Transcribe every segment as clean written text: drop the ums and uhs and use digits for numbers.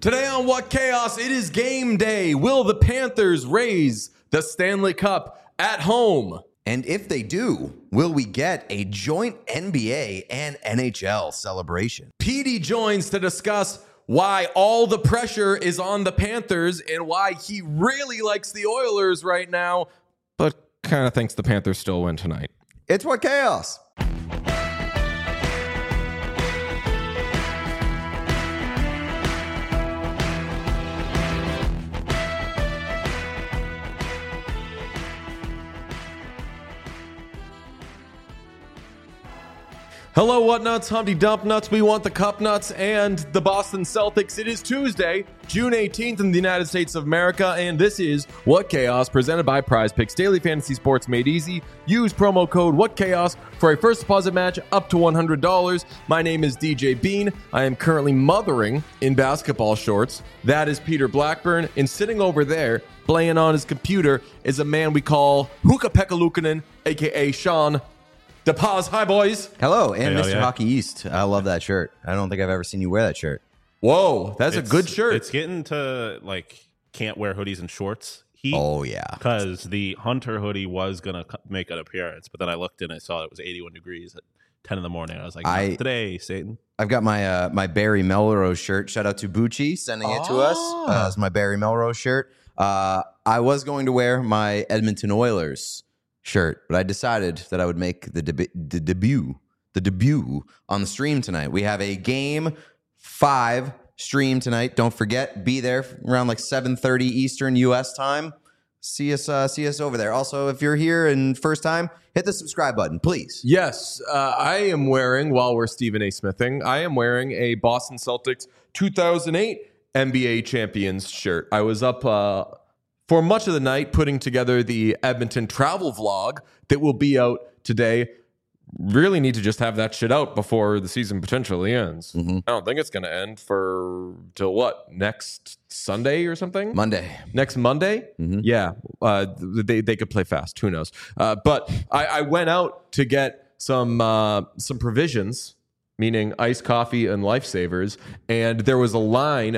Today on What Chaos, it is game day. Will the Panthers raise the Stanley Cup at home? And if they do, will we get a joint NBA and NHL celebration? Petey joins to discuss why all the pressure is on the Panthers and why he really likes the Oilers right now, but kind of thinks the Panthers still win tonight. It's What Chaos. Hello, Whatnuts, Humpty Dump Nuts. We want the Cup Nuts and the Boston Celtics. It is Tuesday, June 18th in the United States of America, and this is What Chaos, presented by Prize Picks, daily fantasy sports made easy. Use promo code What Chaos for a first deposit match up to $100. My name is DJ Bean. I am currently mothering in basketball shorts. That is Peter Blackburn, and sitting over there, playing on his computer, is a man we call Hukka-Pekka Luukkonen, a.k.a. Sean DePaz. Hi, boys. Hello, and Hey, Mr. yeah. Hockey East. I love that shirt. I don't think I've ever seen you wear that shirt. Whoa, that's a good shirt. It's getting to can't wear hoodies and shorts heat. Oh, yeah. Because the Hunter hoodie was gonna make an appearance, but then I looked and I saw it was 81 degrees at 10 in the morning. I was like, not today, Satan. I've got my my Barry Melrose shirt. Shout out to Bucci sending it to us. It's my Barry Melrose shirt. I was going to wear my Edmonton Oilers shirt, but I decided that I would make the debut on the stream tonight. We have a Game 5 stream tonight. Don't forget, be there around 7:30 Eastern U.S. time. See us over there. Also, if you're here and first time, hit the subscribe button, please. Yes, I am wearing, while we're Stephen A. Smithing, I am wearing a Boston Celtics 2008 NBA Champions shirt. I was up for much of the night putting together the Edmonton travel vlog that will be out today. Really need to just have that shit out before the season potentially ends. Mm-hmm. I don't think it's going to end till what? Next Sunday or something? Monday. Next Monday? Mm-hmm. Yeah. They could play fast. Who knows? But I went out to get some provisions, meaning iced coffee and Lifesavers, and there was a line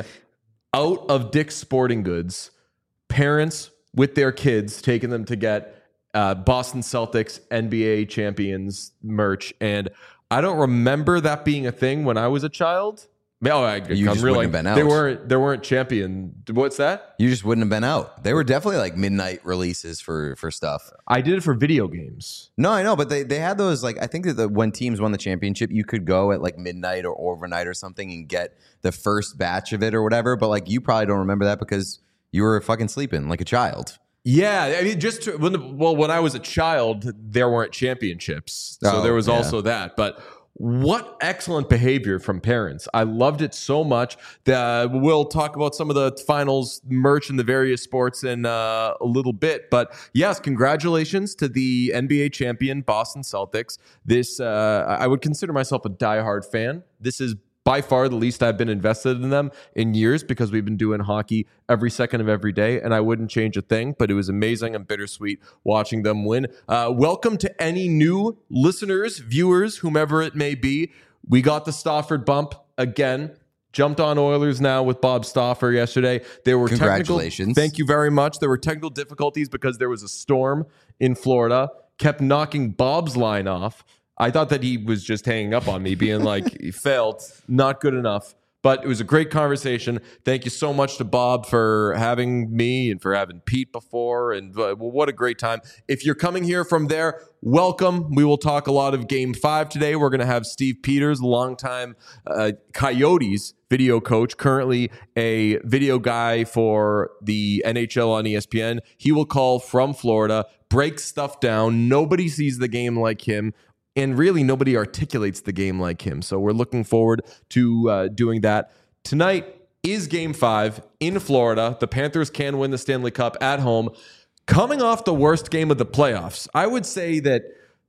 out of Dick's Sporting Goods, parents with their kids taking them to get Boston Celtics NBA champions merch. And I don't remember that being a thing when I was a child. You just wouldn't have been out. They weren't champion. What's that? You just wouldn't have been out. They were definitely midnight releases for stuff. I did it for video games. No, I know, but they had those I think that when teams won the championship, you could go at midnight or overnight or something and get the first batch of it or whatever. But you probably don't remember that because you were fucking sleeping like a child. Yeah, I mean, when I was a child, there weren't championships, so there was also that. But what excellent behavior from parents! I loved it so much. We'll talk about some of the finals merch in the various sports in a little bit. But yes, congratulations to the NBA champion Boston Celtics. This I would consider myself a diehard fan. This is by far the least I've been invested in them in years because we've been doing hockey every second of every day, and I wouldn't change a thing, but it was amazing and bittersweet watching them win. Welcome to any new listeners, viewers, whomever it may be. We got the Stafford bump again. Jumped on Oilers now with Bob Stauffer yesterday. There were Congratulations. Thank you very much. There were technical difficulties because there was a storm in Florida, kept knocking Bob's line off. I thought that he was just hanging up on me, being like, he failed, not good enough. But it was a great conversation. Thank you so much to Bob for having me and for having Pete before. And what a great time. If you're coming here from there, welcome. We will talk a lot of Game 5 today. We're going to have Steve Peters, longtime Coyotes video coach, currently a video guy for the NHL on ESPN. He will call from Florida, break stuff down. Nobody sees the game like him. And really, nobody articulates the game like him. So we're looking forward to doing that. Tonight is Game 5 in Florida. The Panthers can win the Stanley Cup at home. Coming off the worst game of the playoffs, I would say that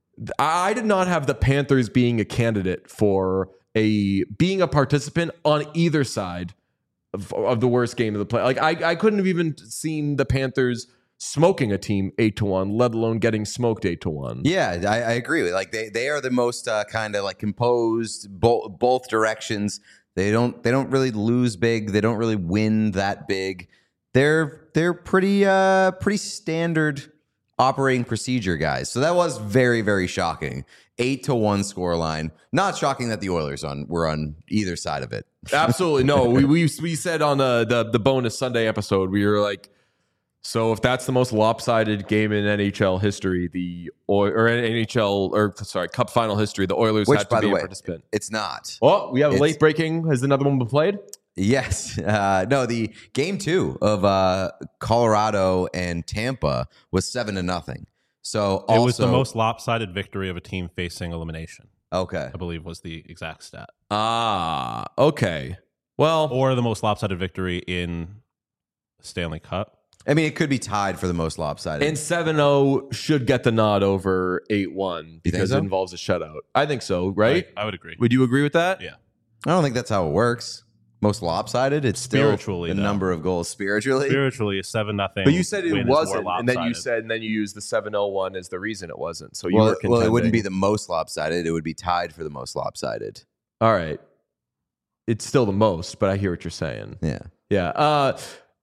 I did not have the Panthers being a candidate for being a participant on either side of the worst game of the play. I couldn't have even seen the Panthers smoking a team 8-1, let alone getting smoked 8-1. Yeah, I agree with they are the most kind of composed both directions They don't really lose big. They don't really win that big. They're pretty standard operating procedure guys. So that was very, very shocking. 8-1 scoreline. Not shocking that the Oilers were on either side of it. Absolutely no. We said on the bonus Sunday episode, we were like, so if that's the most lopsided game in NHL history, Cup final history, the Oilers had to be a participant. It's not. Oh, we have a late breaking. Has another one been played? Yes. No, the game 2 of Colorado and Tampa was 7-0. So it was the most lopsided victory of a team facing elimination. Okay. I believe was the exact stat. Okay. Well, or the most lopsided victory in Stanley Cup. I mean, it could be tied for the most lopsided. And 7-0 should get the nod over 8-1 because it involves a shutout. I think so, right? I would agree. Would you agree with that? Yeah. I don't think that's how it works. Most lopsided, it's still the number of goals spiritually. Spiritually, a 7-0. But you said it wasn't, and then you used the 7-0 as the reason it wasn't. So you were contending. Well, it wouldn't be the most lopsided. It would be tied for the most lopsided. All right. It's still the most, but I hear what you're saying. Yeah. Yeah.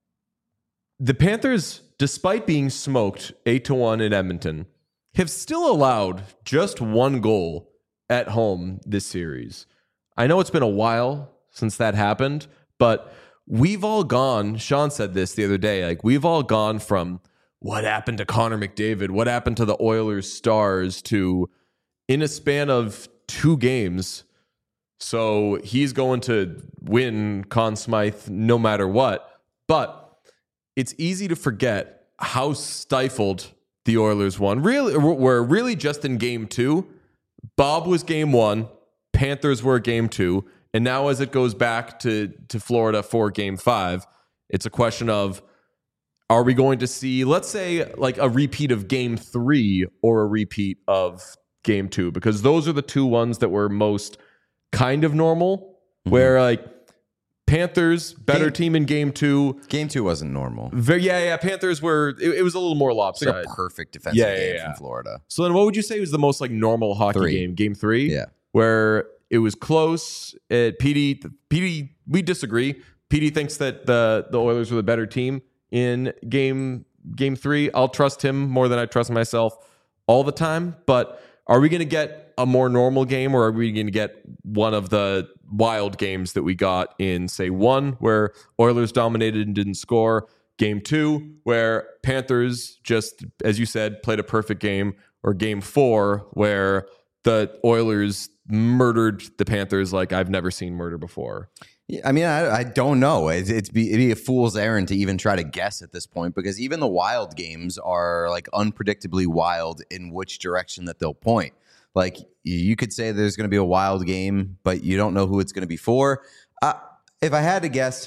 The Panthers, despite being smoked 8-1 in Edmonton, have still allowed just one goal at home this series. I know it's been a while since that happened, but we've all gone, Sean said this the other day, like we've all gone from what happened to Connor McDavid, what happened to the Oilers stars to in a span of 2 games. So he's going to win Conn Smythe no matter what. But it's easy to forget how stifled the Oilers were really just in game 2. Bob was game 1. Panthers were game 2. And now as it goes back to Florida for game 5, it's a question of, are we going to see, let's say, like a repeat of game 3 or a repeat of game 2? Because those are the 2 ones that were most kind of normal, where like Panthers, better team in game 2. Game 2 wasn't normal. Panthers were, it was a little more lopsided. It's like a perfect defensive game from Florida. So then what would you say was the most like normal hockey game? Game 3? Yeah. Where it was close. PD, we disagree. PD thinks that the Oilers were the better team in game 3. I'll trust him more than I trust myself all the time. But are we going to get a more normal game, or are we going to get one of the wild games that we got in, say, 1, where Oilers dominated and didn't score? Game 2, where Panthers just, as you said, played a perfect game, or game 4, where the Oilers murdered the Panthers like I've never seen murder before? I mean, I don't know. It'd be a fool's errand to even try to guess at this point, because even the wild games are like unpredictably wild in which direction that they'll point. Like you could say there's going to be a wild game, but you don't know who it's going to be for. If I had to guess,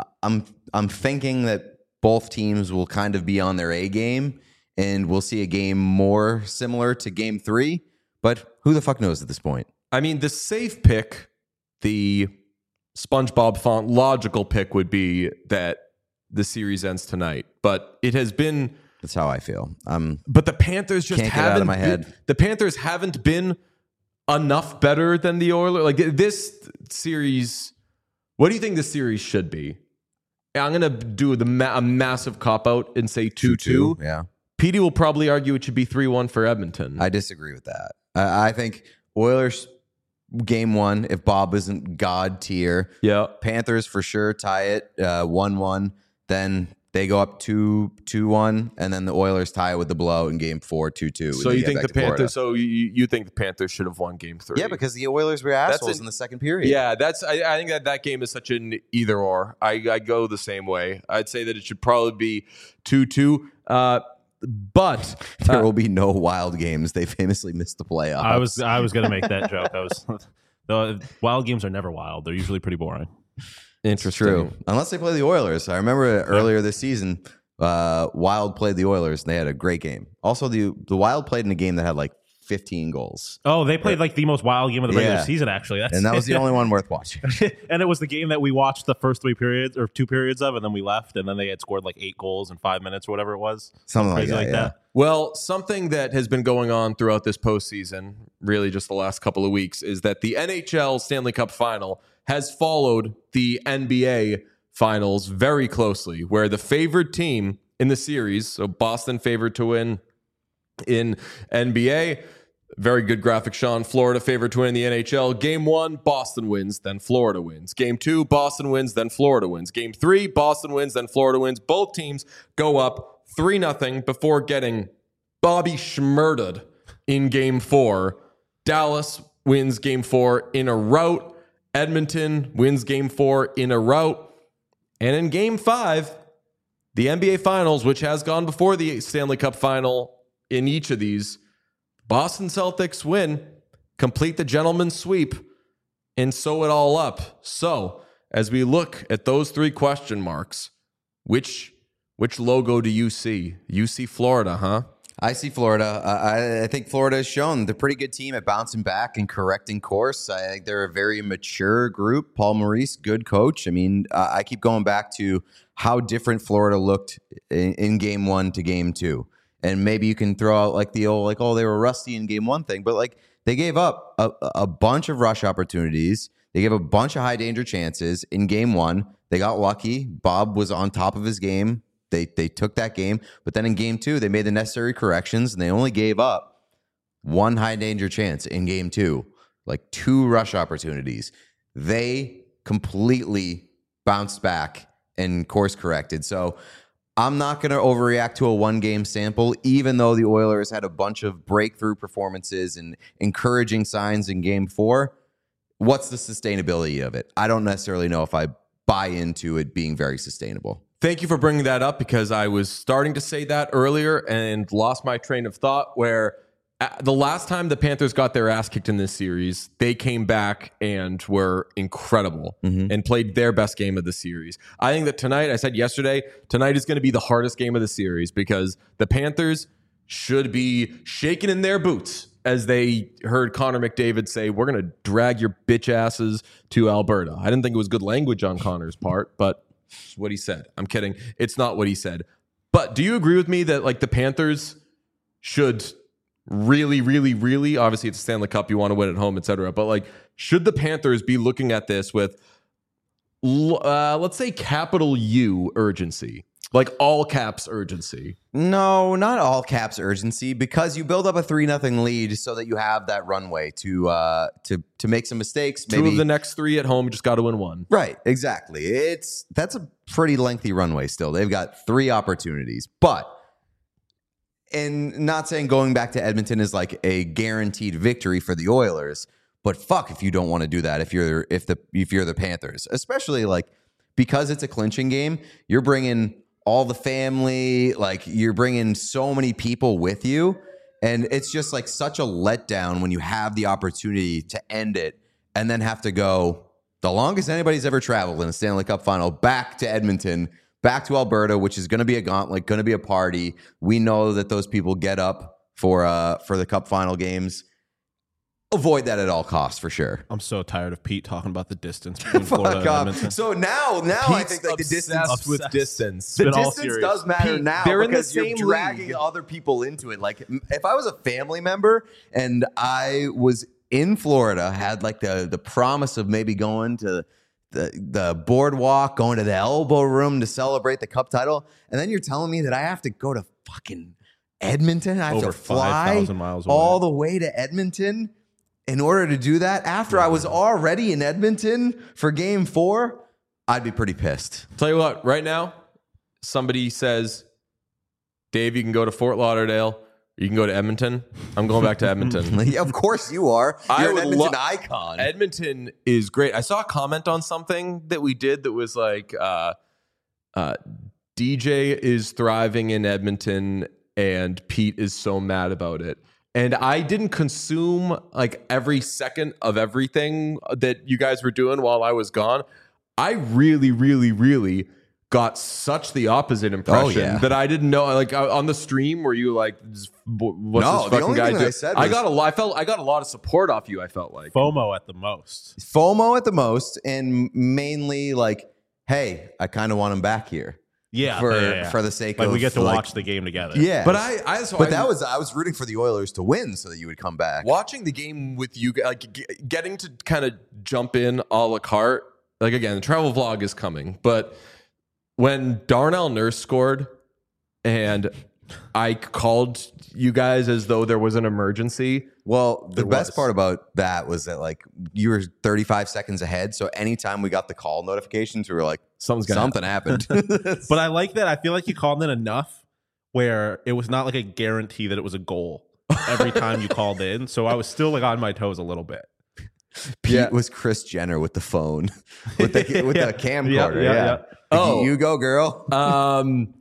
I'm thinking that both teams will kind of be on their A game, and we'll see a game more similar to game 3. But who the fuck knows at this point? I mean, the safe pick, the SpongeBob font logical pick would be that the series ends tonight. But it has been... That's how I feel. But the Panthers just can't get out of my head. The Panthers haven't been enough better than the Oilers. Like this series... What do you think this series should be? I'm going to do a massive cop-out and say 2-2. Yeah. Petey will probably argue it should be 3-1 for Edmonton. I disagree with that. I think Oilers game 1, if Bob isn't God tier. Yeah. Panthers for sure tie it 1-1. Then they go up 2-1, and then the Oilers tie it with the blow in game 4, 2-2. So you think the Panthers? So you think the Panthers should have won game 3? Yeah, because the Oilers were assholes in the second period. Yeah, I think that game is such an either or. I go the same way. I'd say that it should probably be 2-2. But there will be no wild games. They famously missed the playoffs. I was going to make that joke. The wild games are never wild. They're usually pretty boring. Interesting. True. Unless they play the Oilers. I remember earlier this season, Wild played the Oilers, and they had a great game. Also, the Wild played in a game that had like 15 goals. Oh, they played like the most wild game of the regular season, actually. And that was the only one worth watching. And it was the game that we watched the first 3 periods or 2 periods of, and then we left, and then they had scored like 8 goals in 5 minutes or whatever it was. Something like that. Well, something that has been going on throughout this postseason, really just the last couple of weeks, is that the NHL Stanley Cup Final has followed the NBA Finals very closely, where the favored team in the series, so Boston favored to win in NBA, very good graphic, Sean. Florida favored to win in the NHL. Game 1, Boston wins, then Florida wins. Game 2, Boston wins, then Florida wins. Game 3, Boston wins, then Florida wins. Both teams go up 3-0 before getting Bobby Schmurted in Game 4. Dallas wins Game 4 in a rout. Edmonton wins Game 4 in a rout. And in Game 5, the NBA Finals, which has gone before the Stanley Cup Final in each of these, Boston Celtics win, complete the gentleman's sweep, and sew it all up. So, as we look at those 3 question marks, which logo do you see? You see Florida, huh? I see Florida. I think Florida has shown they're a pretty good team at bouncing back and correcting course. I think they're a very mature group. Paul Maurice, good coach. I mean, I keep going back to how different Florida looked in Game 1 to Game 2. And maybe you can throw out like the old, like, oh, they were rusty in Game 1 thing. But like they gave up a bunch of rush opportunities. They gave a bunch of high danger chances in Game 1. They got lucky. Bob was on top of his game. They took that game. But then in Game 2, they made the necessary corrections, and they only gave up 1 high danger chance in Game 2, like 2 rush opportunities. They completely bounced back and course corrected. So I'm not going to overreact to a 1-game sample, even though the Oilers had a bunch of breakthrough performances and encouraging signs in Game 4. What's the sustainability of it? I don't necessarily know if I buy into it being very sustainable. Thank you for bringing that up, because I was starting to say that earlier and lost my train of thought, where the last time the Panthers got their ass kicked in this series, they came back and were incredible and played their best game of the series. I think that tonight, I said yesterday, tonight is going to be the hardest game of the series, because the Panthers should be shaking in their boots as they heard Connor McDavid say, we're going to drag your bitch asses to Alberta. I didn't think it was good language on Connor's part, but it's what he said. I'm kidding. It's not what he said. But do you agree with me that like the Panthers should really, really, really, obviously it's a Stanley Cup, you want to win at home, etc. But like, should the Panthers be looking at this with, let's say, capital U urgency, like all caps urgency? No, not all caps urgency, because you build up a 3-0 lead so that you have that runway to make some mistakes. Maybe 2 of the next 3 at home, you just got to win 1. Right, exactly. That's a pretty lengthy runway still. They've got 3 opportunities, but. And not saying going back to Edmonton is like a guaranteed victory for the Oilers, but fuck if you don't want to do that if you're the Panthers, especially like because it's a clinching game. You're bringing all the family, like you're bringing so many people with you, and it's just like such a letdown when you have the opportunity to end it and then have to go the longest anybody's ever traveled in a Stanley Cup final back to Edmonton. Back to Alberta, which is going to be a gauntlet, going to be a party. We know that those people get up for the Cup final games. Avoid that at all costs, for sure. I'm so tired of Pete talking about the distance between Florida and Edmonton. So now I think like the distance with distance. The distance does matter Pete, now, they're in because the you're same dragging league. other people into it. Like if I was a family member and I was in Florida, had like the promise of maybe going to the boardwalk, going to the elbow room to celebrate the cup title, and then you're telling me that I have to go to fucking Edmonton? I have Over to fly 5,000 miles away. all the way to Edmonton in order to do that after I was already in Edmonton for Game 4? I'd be pretty pissed. Tell you what, right now, somebody says, Dave, you can go to Fort Lauderdale. You can go to Edmonton. I'm going back to Edmonton. Yeah, of course you are. You're an would Edmonton icon. Edmonton is great. I saw a comment on something that we did that was like, DJ is thriving in Edmonton and Pete is so mad about it. And I didn't consume like every second of everything that you guys were doing while I was gone. I really, really, really got such the opposite impression that I didn't know. Like on the stream, were you like, "What's this fucking guy doing?" I got a lot of support off you. I felt like FOMO at the most. FOMO at the most, and mainly like, hey, I kind of want him back here. for the sake like of we get to watch the game together. Yeah, But I was rooting for the Oilers to win so that you would come back. watching the game with you, like getting to kind of jump in a la carte. Like again, the travel vlog is coming, but when Darnell Nurse scored, and I called you guys as though there was an emergency. Well, the best part about that was that like you were 35 seconds ahead, so anytime we got the call notifications, we were like, something happened. But I like that. I feel like you called in enough where it was not like a guarantee that it was a goal every time you called in. So I was still like on my toes a little bit. Pete was Kris Jenner with the phone, with the camcorder. Yeah. Oh, you go, girl. when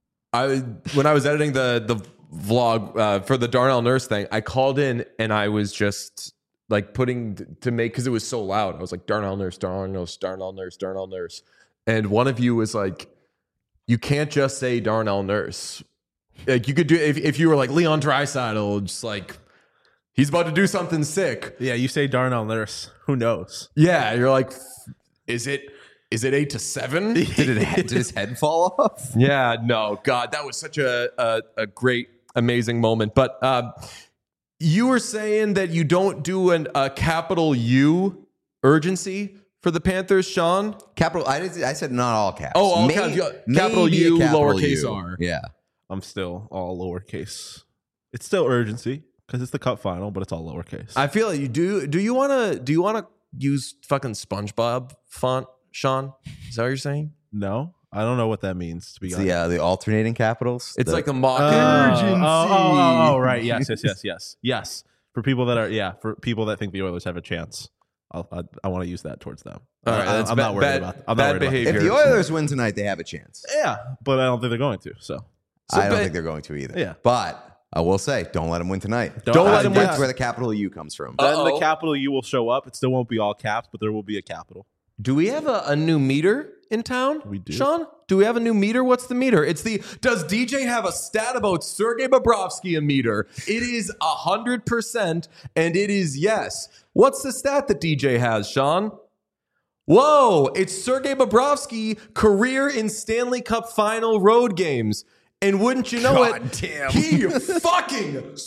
I was editing the vlog for the Darnell Nurse thing, I called in and I was just like putting to make, because it was so loud. I was like, Darnell Nurse, Darnell Nurse, Darnell Nurse, Darnell Nurse. And one of you was like, you can't just say Darnell Nurse. Like you could do if you were like Leon Draisaitl, just like he's about to do something sick. Yeah, you say Darnell Nurse. Who knows? Yeah, you're like, is it 8-7? Did his head fall off? Yeah, no, God, that was such a great, amazing moment. But you were saying that you don't do a capital U urgency for the Panthers, Sean? I said not all caps. Oh, all caps. Capital U, lowercase r. Yeah. I'm still all lowercase. It's still urgency because it's the cup final, but it's all lowercase. I feel like you do. Do you want to use fucking SpongeBob font, Sean? Is that what you're saying? No, I don't know what that means, to be honest. Yeah, the alternating capitals. It's like a mock urgency. Oh, right. Yes. For people that think the Oilers have a chance, I want to use that towards them. All right, that's I'm not worried about. I'm not worried behavior. If the Oilers win tonight, they have a chance. Yeah, but I don't think they're going to. So I don't think they're going to either. Yeah. But I will say, don't let them win tonight. Don't let them win. That's where the capital U comes from. then the capital U will show up. It still won't be all caps, but there will be a capital. Do we have a new meter in town? We do. Sean? Do we have a new meter? What's the meter? Does DJ have a stat about Sergei Bobrovsky a meter? It is 100%, and it is yes. What's the stat that DJ has, Sean? Whoa, it's Sergei Bobrovsky career in Stanley Cup final road games. And wouldn't you know damn. he fucking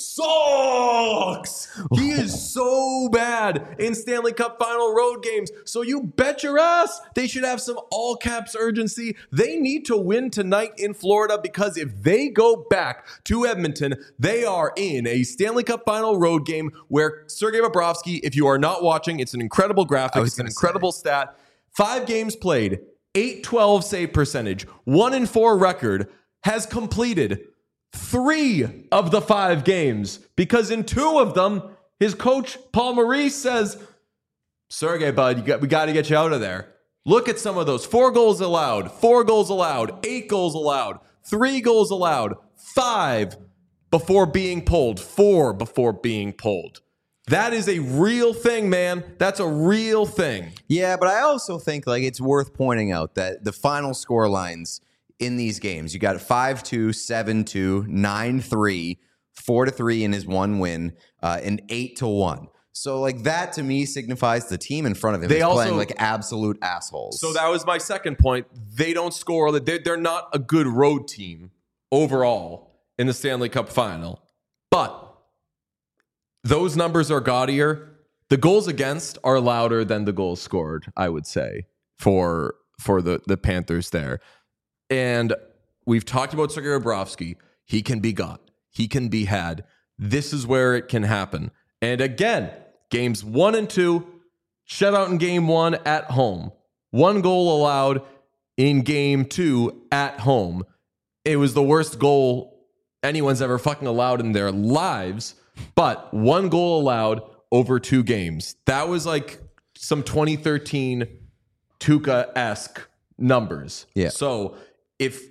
sucks. He is so bad in Stanley Cup final road games. So you bet your ass they should have some all caps urgency. They need to win tonight in Florida, because if they go back to Edmonton, they are in a Stanley Cup final road game where Sergei Bobrovsky, if you are not watching, it's an incredible graphic. It's an incredible stat. 5 games played, .812 save percentage, 1-4 record. Has completed 3 of the 5 games, because in 2 of them, his coach, Paul Maurice, says, Sergei, bud, we got to get you out of there. Look at some of those. 4 goals allowed, 4 goals allowed, 8 goals allowed, 3 goals allowed, 5 before being pulled, 4 before being pulled. That is a real thing, man. That's a real thing. Yeah, but I also think like it's worth pointing out that the final score lines in these games, you got 5-2, 7-2, 9-3, 4-3 in his one win, and 8-1. So like that to me signifies the team in front of him is playing like absolute assholes. So that was my second point. They don't score. They're not a good road team overall in the Stanley Cup final. But those numbers are gaudier. The goals against are louder than the goals scored, I would say, for the Panthers there. And we've talked about Sergei Bobrovsky. He can be got. He can be had. This is where it can happen. And again, games 1 and 2, shutout in game 1 at home. 1 goal allowed in game 2 at home. It was the worst goal anyone's ever fucking allowed in their lives, but 1 goal allowed over 2 games. That was like some 2013 Tuukka-esque numbers. Yeah. So if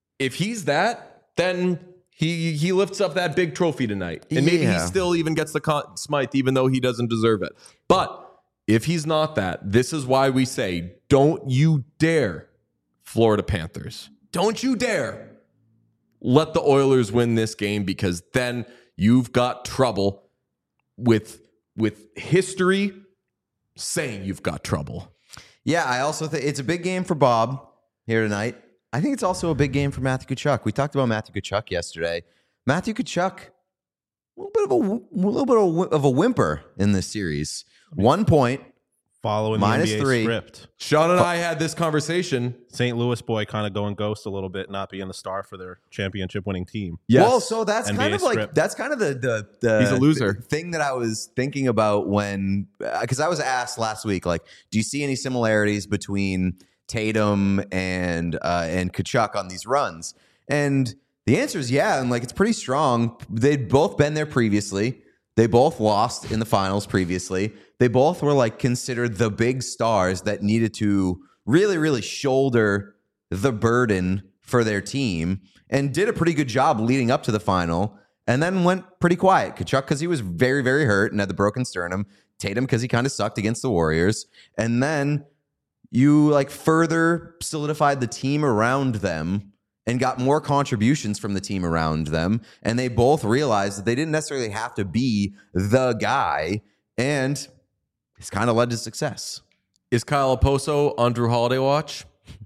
he's then he lifts up that big trophy tonight. And maybe he still even gets the Conn Smythe, even though he doesn't deserve it. But if he's not that, this is why we say, don't you dare, Florida Panthers. Don't you dare let the Oilers win this game, because then you've got trouble with history saying you've got trouble. Yeah, I also think it's a big game for Bob here tonight. I think it's also a big game for Matthew Tkachuk. We talked about Matthew Tkachuk yesterday. Matthew Tkachuk, a little bit of a whimper in this series. 1 point, Following minus the NBA 3. script. Sean and I had this conversation. St. Louis boy kind of going ghost a little bit, not being the star for their championship winning team. Yes. Well, so that's NBA kind of like script. that's kind of the He's a loser. thing that I was thinking about when because I was asked last week, like, do you see any similarities between Tatum and Tkachuk on these runs? And the answer is yeah, and like it's pretty strong. They'd both been there previously. They both lost in the finals previously. They both were like considered the big stars that needed to really, really shoulder the burden for their team and did a pretty good job leading up to the final and then went pretty quiet. Tkachuk because he was very, very hurt and had the broken sternum. Tatum because he kind of sucked against the Warriors. And then you like further solidified the team around them and got more contributions from the team around them. And they both realized that they didn't necessarily have to be the guy. And it's kind of led to success. Is Kyle Oposo on Drew Holiday watch?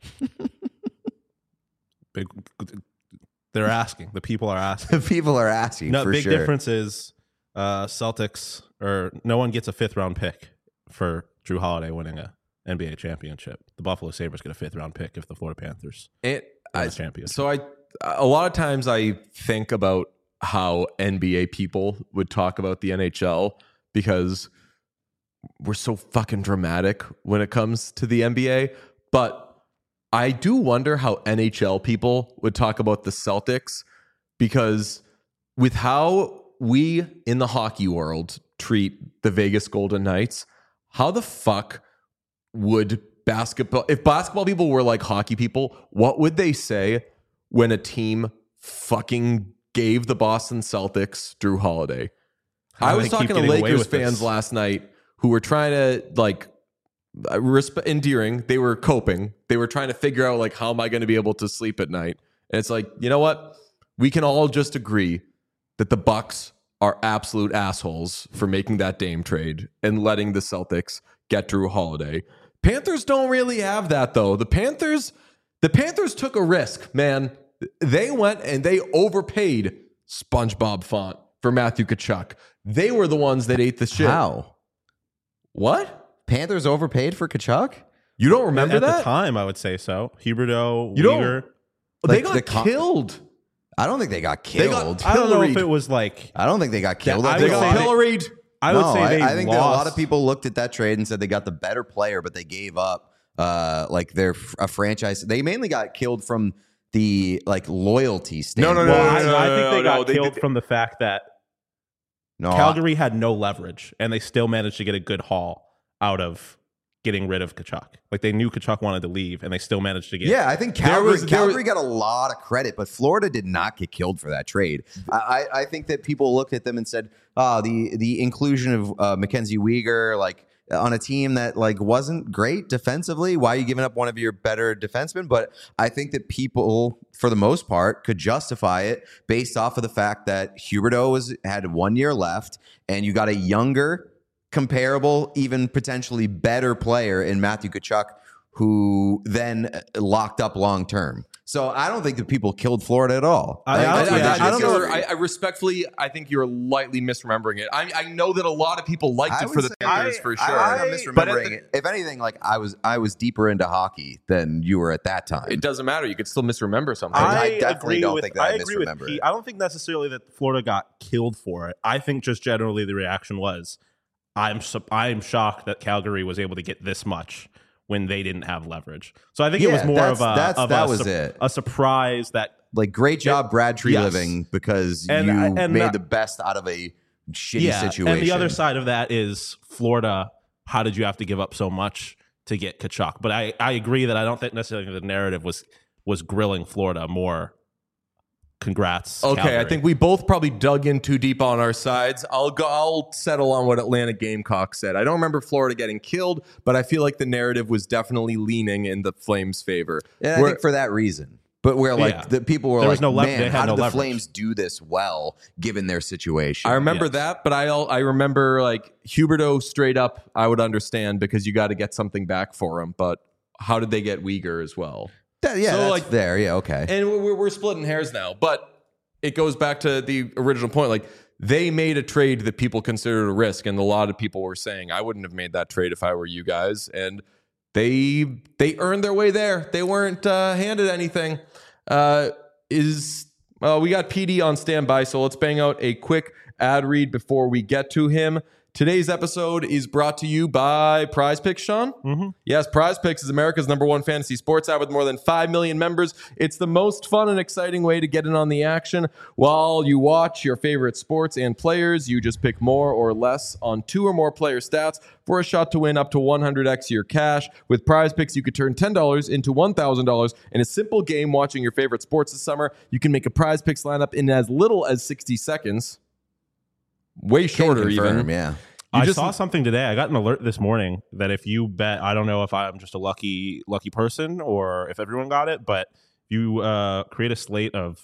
Big, they're asking. The people are asking. People are asking No, for big sure. difference is Celtics or no one gets a 5th round pick for Drew Holiday winning a NBA championship. The Buffalo Sabres get a 5th round pick if the Florida Panthers win a championship. So a lot of times I think about how NBA people would talk about the NHL because we're so fucking dramatic when it comes to the NBA. But I do wonder how NHL people would talk about the Celtics because with how we in the hockey world treat the Vegas Golden Knights, how the fuck would if basketball people were like hockey people, what would they say when a team fucking gave the Boston Celtics Drew Holiday? How I do was they talking keep to getting away Lakers with this? fans last night who were trying to like endearing. They were coping. They were trying to figure out like, how am I going to be able to sleep at night? And it's like, you know what? We can all just agree that the Bucks are absolute assholes for making that Dame trade and letting the Celtics get Drew Holiday. Panthers don't really have that though. The Panthers took a risk, man. They went and they overpaid SpongeBob Font for Matthew Tkachuk. They were the ones that ate the shit. How? What? Panthers overpaid for Tkachuk? You don't remember At that? the time, I would say so. Huberdeau, You don't- Weegar. They Like got killed. I don't think they got They got killed. I don't know if pilloried. it was like I don't think they got killed. Yeah, I I They think would a got lot say of- pilloried. I would No, say they I think that a lot of lost. people looked at that trade and said they got the better player, but they gave up like a franchise. They mainly got killed from the like loyalty standpoint. no, Well, I no, think they got no, they killed did- from the fact that No, Calgary had no leverage, and they still managed to get a good haul out of getting rid of Tkachuk. Like they knew Tkachuk wanted to leave, and they still managed to get. yeah, I think There was- Calgary got a lot of credit, but Florida did not get killed for that trade. I think that people looked at them and said, "Oh, the inclusion of Mackenzie Weegar, like on a team that like wasn't great defensively. Why are you giving up one of your better defensemen?" But I think that people, for the most part, could justify it based off of the fact that Huberdeau had 1 year left, and you got a younger, comparable, even potentially better player in Matthew Tkachuk, who then locked up long term. So I don't think that people killed Florida at all. I don't know. I respectfully, I think you're lightly misremembering it. I know that a lot of people liked it would for the say- Panthers for sure. I'm But misremembering it. If anything, like I was deeper into hockey than you were at that time. It doesn't matter. You could still misremember something. I definitely agree don't with- think that I agree with misremember Pete. it. I don't think necessarily that Florida got killed for it. I think just generally the reaction was, I'm shocked that Calgary was able to get this much when they didn't have leverage. So I think it was Yeah, more that's- of that's- a that was it. a surprise that Like great job, Brad Tree Yes. Living, because And- you and made that- the best out of a shitty situation. And the other side of that is Florida. How did you have to give up so much to get Tkachuk? But I agree that I don't think necessarily the narrative was grilling Florida more. Congrats. Okay, Calgary. I think we both probably dug in too deep on our sides. I'll settle on what Atlanta Gamecocks said. I don't remember Florida getting killed, but I feel like the narrative was definitely leaning in the Flames' favor. And I think for that reason. But where like Yeah. the people were There like, was no man, they had how no did the leverage. Flames do this well given their situation? I remember Yes. that, but I remember like Huberdeau straight up. I would understand because you got to get something back for him. But how did they get Weegar as well? That's there. Yeah, okay. And we're splitting hairs now, but it goes back to the original point. Like, they made a trade that people considered a risk, and a lot of people were saying, I wouldn't have made that trade if I were you guys. And they earned their way there. They weren't handed anything. We got PD on standby, so let's bang out a quick ad read before we get to him. Today's episode is brought to you by Prize Picks, Sean. Mm-hmm. Yes, Prize Picks is America's #1 fantasy sports app with more than 5 million members. It's the most fun and exciting way to get in on the action. While you watch your favorite sports and players, you just pick more or less on 2 or more player stats for a shot to win up to 100x your cash. With Prize Picks, you could turn $10 into $1,000 in a simple game watching your favorite sports this summer. You can make a Prize Picks lineup in as little as 60 seconds. Way shorter, even. Yeah. I saw something today. I got an alert this morning that if you bet, I don't know if I'm just a lucky person or if everyone got it, but if you create a slate of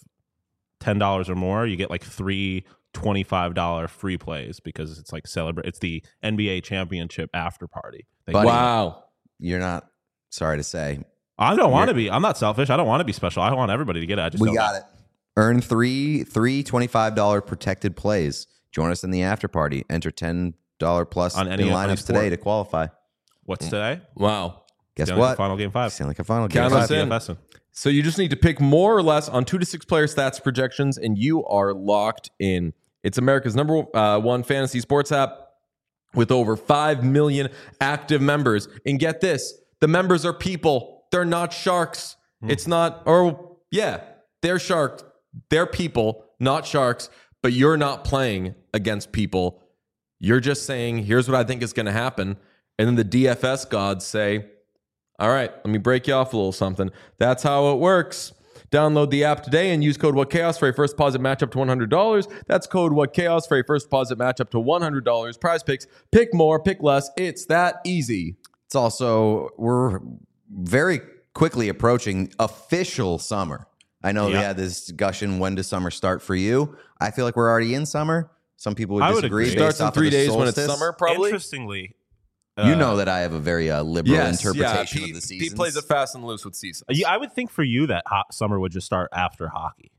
$10 or more, you get like 3 $25 free plays because it's like it's the NBA championship after party. Buddy, wow. You're not, sorry to say. I don't want to be. I'm not selfish. I don't want to be special. I want everybody to get it. We got it. Earn three $25 protected plays. Join us in the after party. Enter $10 plus on any in lineups today to qualify. What's today? Wow. Guess what? Final game 5. Stanley Cup final game game 5. So you just need to pick more or less on 2 to 6 player stats projections, and you are locked in. It's America's #1 fantasy sports app with over 5 million active members. And get this, the members are people. They're not sharks. It's not, they're sharks. They're people, not sharks. But you're not playing against people. You're just saying, here's what I think is going to happen. And then the DFS gods say, all right, let me break you off a little something. That's how it works. Download the app today and use code WhatChaos for a first deposit match up to $100. That's code WhatChaos for a first deposit match up to $100. Prize Picks. Pick more, pick less. It's that easy. It's also, we're very quickly approaching official summer. I know we had this discussion, when does summer start for you? I feel like we're already in summer. Some people would disagree. It starts in 3 days when it's summer, probably. Interestingly, you know that I have a very liberal interpretation of the season. He plays it fast and loose with seasons. I would think for you that summer would just start after hockey.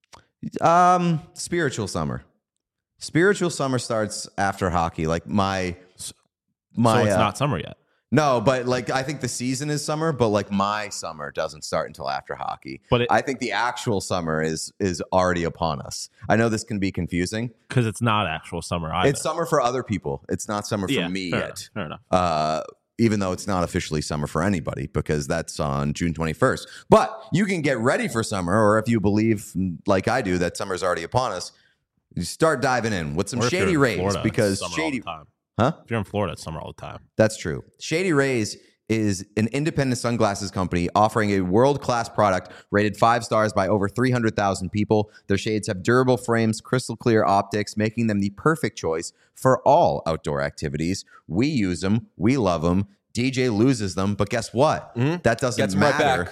Spiritual summer. Spiritual summer starts after hockey. Like my so it's not summer yet. No, but like I think the season is summer, but like my summer doesn't start until after hockey. But I think the actual summer is already upon us. I know this can be confusing because it's not actual summer either. It's summer for other people. It's not summer for me yet. Fair enough. Even though it's not officially summer for anybody because that's on June 21st. But you can get ready for summer, or if you believe like I do that summer's already upon us, you start diving in with some Shady Rays because Shady. Huh? If you're in Florida, it's summer all the time. That's true. Shady Rays is an independent sunglasses company offering a world-class product rated 5 stars by over 300,000 people. Their shades have durable frames, crystal clear optics, making them the perfect choice for all outdoor activities. We use them. We love them. DJ loses them, but guess what? That doesn't matter.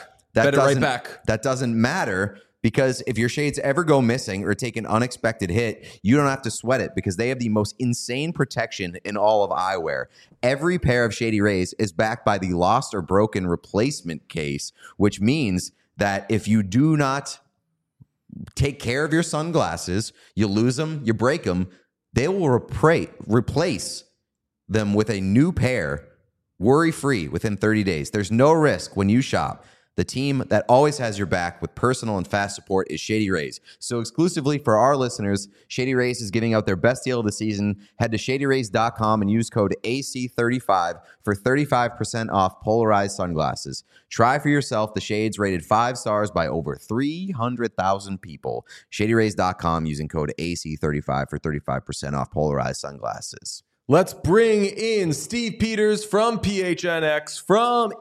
That doesn't matter. Because if your shades ever go missing or take an unexpected hit, you don't have to sweat it because they have the most insane protection in all of eyewear. Every pair of Shady Rays is backed by the lost or broken replacement case, which means that if you do not take care of your sunglasses, you lose them, you break them, they will replace them with a new pair worry-free within 30 days. There's no risk when you shop. The team that always has your back with personal and fast support is Shady Rays. So exclusively for our listeners, Shady Rays is giving out their best deal of the season. Head to shadyrays.com and use code AC35 for 35% off polarized sunglasses. Try for yourself the shades rated 5 stars by over 300,000 people. Shadyrays.com using code AC35 for 35% off polarized sunglasses. Let's bring in Steve Peters from PHNX from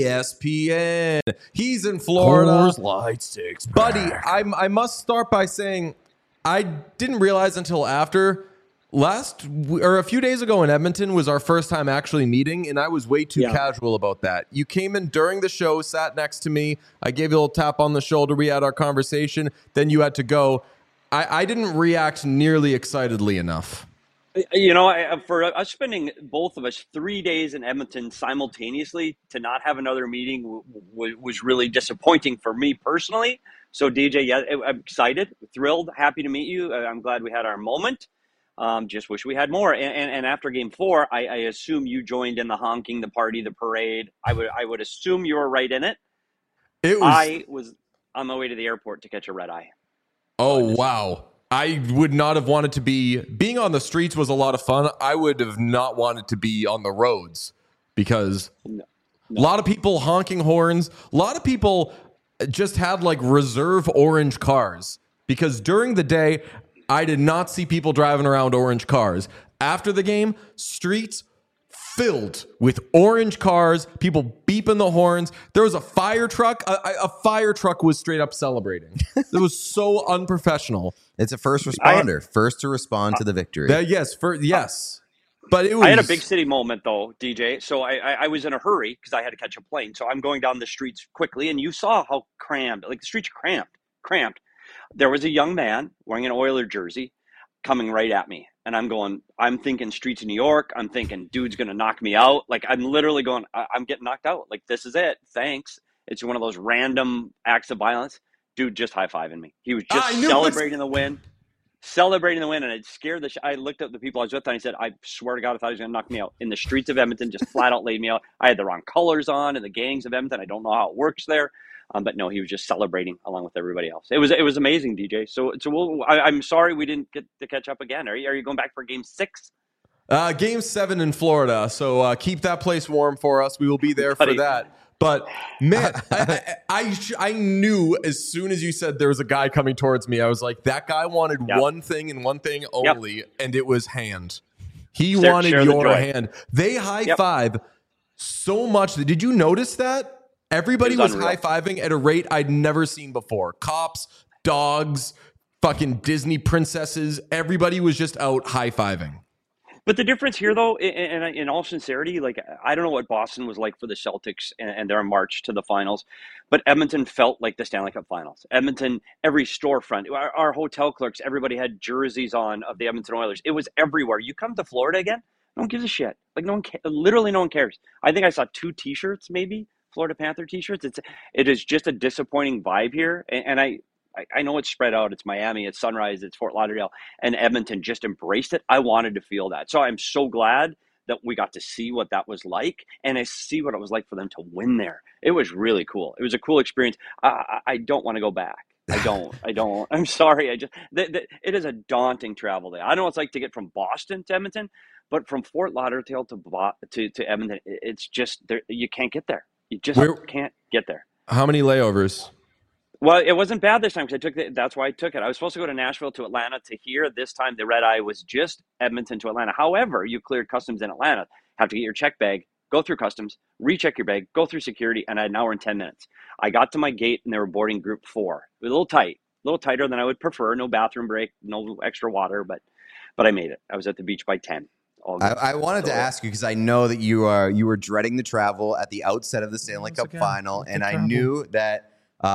ESPN. He's in Florida. Coors Light 6-pack. Buddy, I must start by saying I didn't realize until after a few days ago in Edmonton was our first time actually meeting, and I was way too casual about that. You came in during the show, sat next to me. I gave you a little tap on the shoulder. We had our conversation. Then you had to go. I didn't react nearly excitedly enough. For us spending both of us 3 days in Edmonton simultaneously to not have another meeting was really disappointing for me personally. So DJ, yeah, I'm excited, thrilled, happy to meet you. I'm glad we had our moment. Just wish we had more. And after Game 4, I assume you joined in the honking, the party, the parade. I would assume you were right in it. It was I was on my way to the airport to catch a red eye. Oh, wow. I would not have wanted to be. Being on the streets was a lot of fun. I would have not wanted to be on the roads because No. a lot of people honking horns. A lot of people just had like reserve orange cars because during the day, I did not see people driving around orange cars. After the game, streets filled with orange cars, people beeping the horns. There was a fire truck. A fire truck was straight up celebrating. It was so unprofessional. It's a first responder, first to respond to the victory. Yes. But it was. I had a big city moment though, DJ. So I was in a hurry because I had to catch a plane. So I'm going down the streets quickly, and you saw how crammed, like the streets are cramped. There was a young man wearing an Oiler jersey coming right at me. And I'm thinking streets of New York. I'm thinking, dude's going to knock me out. Like, I'm literally going, I'm getting knocked out. Like, this is it. Thanks. It's one of those random acts of violence. Dude just high-fiving me. He was just celebrating the win. And it scared I looked at the people I was with, and I said, I swear to God, I thought he was going to knock me out. In the streets of Edmonton, just flat out laid me out. I had the wrong colors on in the gangs of Edmonton. I don't know how it works there. But no, he was just celebrating along with everybody else. It was amazing, DJ. So I'm sorry we didn't get to catch up again. Are you going back for Game 6? Game 7 in Florida. So keep that place warm for us. We will be there for that. But man, I knew as soon as you said there was a guy coming towards me, I was like, that guy wanted one thing and one thing only, and it was hand. He wanted your hand. They high five so much. Did you notice that? Everybody was high-fiving at a rate I'd never seen before. Cops, dogs, fucking Disney princesses. Everybody was just out high-fiving. But the difference here, though, in all sincerity, like, I don't know what Boston was like for the Celtics and their march to the finals, but Edmonton felt like the Stanley Cup finals. Edmonton, every storefront, our hotel clerks, everybody had jerseys on of the Edmonton Oilers. It was everywhere. You come to Florida again, no one gives a shit. Like, literally no one cares. I think I saw 2 T-shirts, maybe, Florida Panther T-shirts. It is just a disappointing vibe here, and I know it's spread out. It's Miami, it's Sunrise, it's Fort Lauderdale, and Edmonton just embraced it. I wanted to feel that. So I'm so glad that we got to see what that was like, and I see what it was like for them to win there. It was really cool. It was a cool experience. I don't want to go back. I don't. I'm sorry. It is a daunting travel day. I know what it's like to get from Boston to Edmonton, but from Fort Lauderdale to Edmonton, it's just you can't get there. You just can't get there. How many layovers? Well, it wasn't bad this time because that's why I took it. I was supposed to go to Nashville to Atlanta to here. This time the red eye was just Edmonton to Atlanta. However, you cleared customs in Atlanta, have to get your check bag, go through customs, recheck your bag, go through security, and I had an hour and 10 minutes. I got to my gate and they were boarding group 4. It was a little tighter than I would prefer. No bathroom break, no extra water, but I made it. I was at the beach by 10. I wanted to ask you because I know that you were dreading the travel at the outset of the Stanley Cup final, and I knew that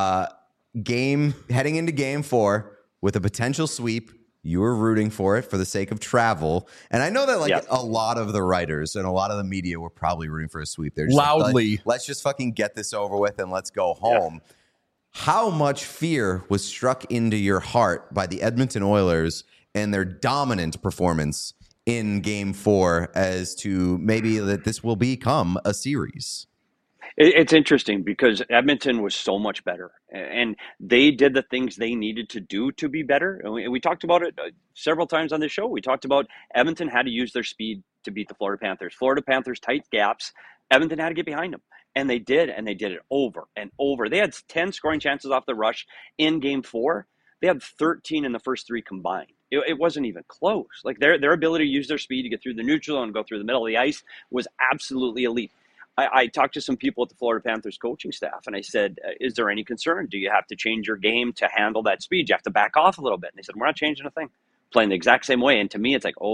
heading into Game 4 with a potential sweep, you were rooting for it for the sake of travel. And I know that a lot of the writers and a lot of the media were probably rooting for a sweep. They're just loudly. Like, let's just fucking get this over with and let's go home. Yeah. How much fear was struck into your heart by the Edmonton Oilers and their dominant performance in Game 4 as to maybe that this will become a series? It's interesting because Edmonton was so much better, and they did the things they needed to do to be better. And we talked about it several times on the show. We talked about Edmonton had to use their speed to beat the Florida Panthers. Florida Panthers tight gaps. Edmonton had to get behind them, and they did it over and over. They had 10 scoring chances off the rush in Game 4. They had 13 in the first 3 combined. It wasn't even close. Like their ability to use their speed to get through the neutral zone and go through the middle of the ice was absolutely elite. I talked to some people at the Florida Panthers coaching staff, and I said, is there any concern? Do you have to change your game to handle that speed? You have to back off a little bit. And they said, we're not changing a thing. Playing the exact same way. And to me, it's like,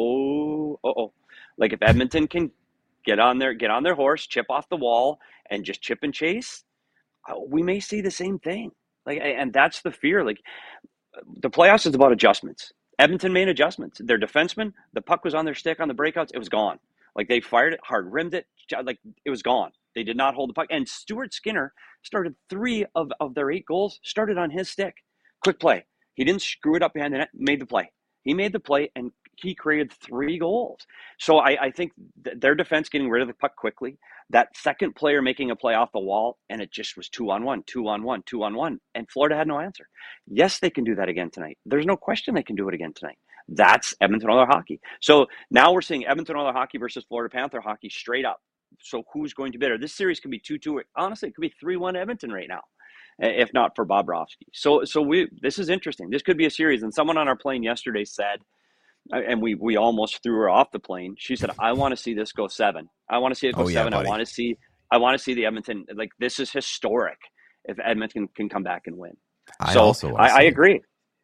like if Edmonton can get on their horse, chip off the wall, and just chip and chase, we may see the same thing. And that's the fear. Like, the playoffs is about adjustments. Edmonton made adjustments. Their defensemen, the puck was on their stick on the breakouts. It was gone. Like they fired it hard, rimmed it, like it was gone. They did not hold the puck. And Stuart Skinner started 3 of their 8 goals, started on his stick. Quick play. He didn't screw it up behind the net, made the play. He made the play and he created 3 goals. So I think their defense getting rid of the puck quickly, that second player making a play off the wall, and it just was 2-on-1, 2-on-1, 2-on-1, and Florida had no answer. Yes, they can do that again tonight. There's no question they can do it again tonight. That's Edmonton Oilers hockey. So now we're seeing Edmonton Oilers hockey versus Florida Panther hockey straight up. So who's going to be better? This series could be 2-2. Honestly, it could be 3-1 Edmonton right now, if not for Bobrovsky. So this is interesting. This could be a series. And someone on our plane yesterday said, and we almost threw her off the plane. She said, "I want to see this go 7. I want to see it go 7. buddy. I want to see the Edmonton, like, this is historic if Edmonton can come back and win." I agree.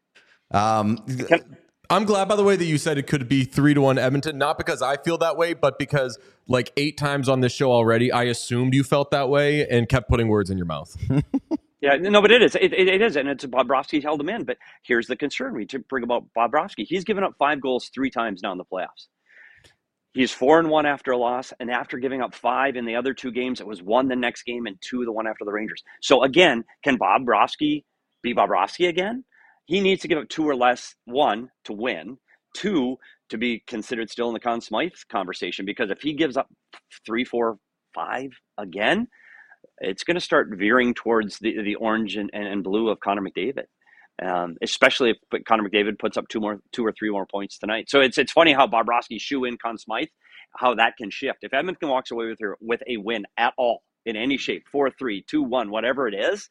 I'm glad, by the way, that you said it could be 3-1 Edmonton, not because I feel that way, but because like 8 times on this show already, I assumed you felt that way and kept putting words in your mouth. Yeah, no, but it is. It is, and it's Bobrovsky held him in. But here's the concern we bring about Bobrovsky. He's given up 5 goals 3 times now in the playoffs. He's 4-1 after a loss, and after giving up 5 in the other 2 games, it was 1 the next game and 2 the one after the Rangers. So again, can Bobrovsky be Bobrovsky again? He needs to give up 2 or less, 1, to win, 2, to be considered still in the Conn Smythe conversation, because if he gives up 3, 4, 5 again, it's going to start veering towards the orange and blue of Connor McDavid, especially if Connor McDavid puts up 2 or 3 more points tonight. So it's funny how Bobrovsky shoe in Conn Smythe, how that can shift. If Edmonton walks away with a win at all in any shape, 4-3, 2-1, whatever it is,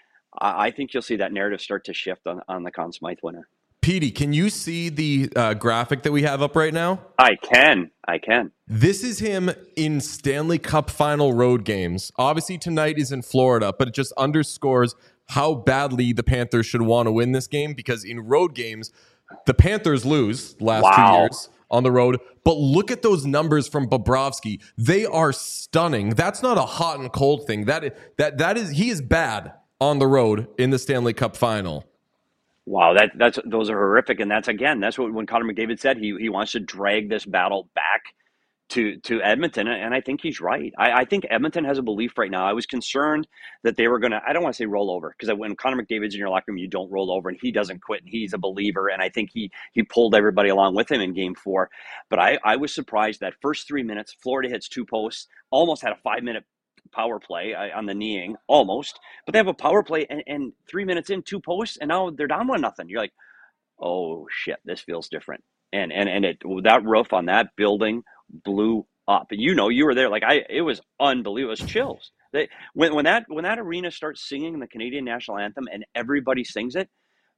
I think you'll see that narrative start to shift on the Conn Smythe winner. Petey, can you see the graphic that we have up right now? I can. This is him in Stanley Cup final road games. Obviously, tonight is in Florida, but it just underscores how badly the Panthers should want to win this game, because in road games, the Panthers lose last 2 years on the road. But look at those numbers from Bobrovsky. They are stunning. That's not a hot and cold thing. That is he is bad on the road in the Stanley Cup final. Wow, those are horrific, and that's what when Connor McDavid said he wants to drag this battle back to Edmonton, and I think he's right. I think Edmonton has a belief right now. I was concerned that they were going to, I don't want to say roll over, because when Connor McDavid's in your locker room, you don't roll over, and he doesn't quit, and he's a believer, and I think he pulled everybody along with him in Game 4. But I was surprised that first 3 minutes, Florida hits 2 posts, almost had a 5-minute power play on the kneeing, almost, but they have a power play and 3 minutes in, 2 posts, and now they're down 1-0. You're like, oh shit, this feels different. And that roof on that building blew up. And you were there. Like it was unbelievable. It was chills. When that arena starts singing the Canadian national anthem and everybody sings it,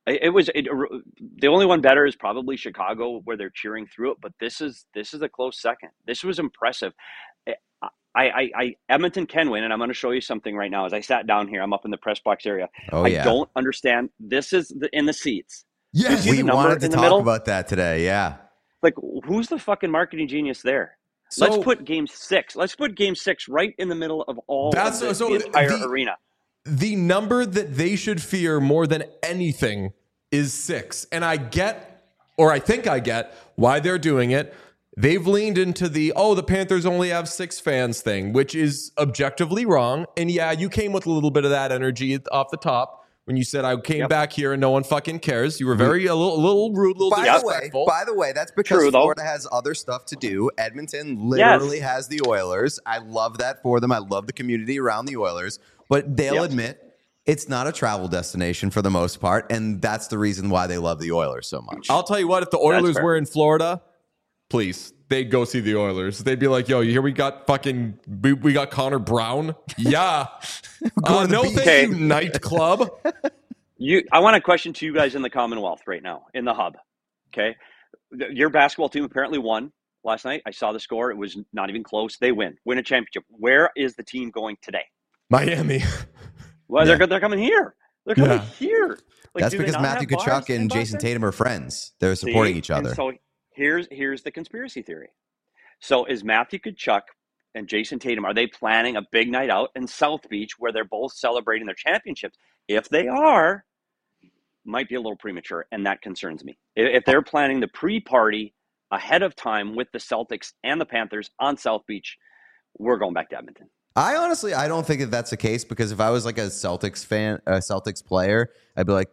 the only one better is probably Chicago, where they're cheering through it. But this is a close second. This was impressive. Edmonton can win, and I'm going to show you something right now. As I sat down here, I'm up in the press box area. I don't understand. This is in the seats. Yes, we wanted to talk about that today. Yeah, like who's the fucking marketing genius there? So, let's put Game 6. Let's put Game 6 right in the middle of all the entire arena. The number that they should fear more than anything is 6, and I think I get why they're doing it. They've leaned into the Panthers only have 6 fans thing, which is objectively wrong. And yeah, you came with a little bit of that energy off the top when you said I came back here and no one fucking cares. You were a little rude, a little disrespectful. By the way, that's because Florida has other stuff to do. Edmonton literally has the Oilers. I love that for them. I love the community around the Oilers. But they'll admit it's not a travel destination for the most part, and that's the reason why they love the Oilers so much. I'll tell you what, if the Oilers were in Florida, please, they'd go see the Oilers. They'd be like, yo, here we got we got Connor Brown. Yeah. No thank you, nightclub. I want a question to you guys in the Commonwealth right now, in the hub. Okay. Your basketball team apparently won last night. I saw the score. It was not even close. They win a championship. Where is the team going today? Miami. Well, they're coming here. They're coming here. Like, that's because Matthew Tkachuk and Jason Tatum are friends. They're supporting each other. So here's the conspiracy theory. So is Matthew Tkachuk and Jason Tatum, are they planning a big night out in South Beach where they're both celebrating their championships? If they are, might be a little premature, and that concerns me. If they're planning the pre-party ahead of time with the Celtics and the Panthers on South Beach, we're going back to Edmonton. I don't think that that's the case, because if I was like a Celtics fan, a Celtics player, I'd be like,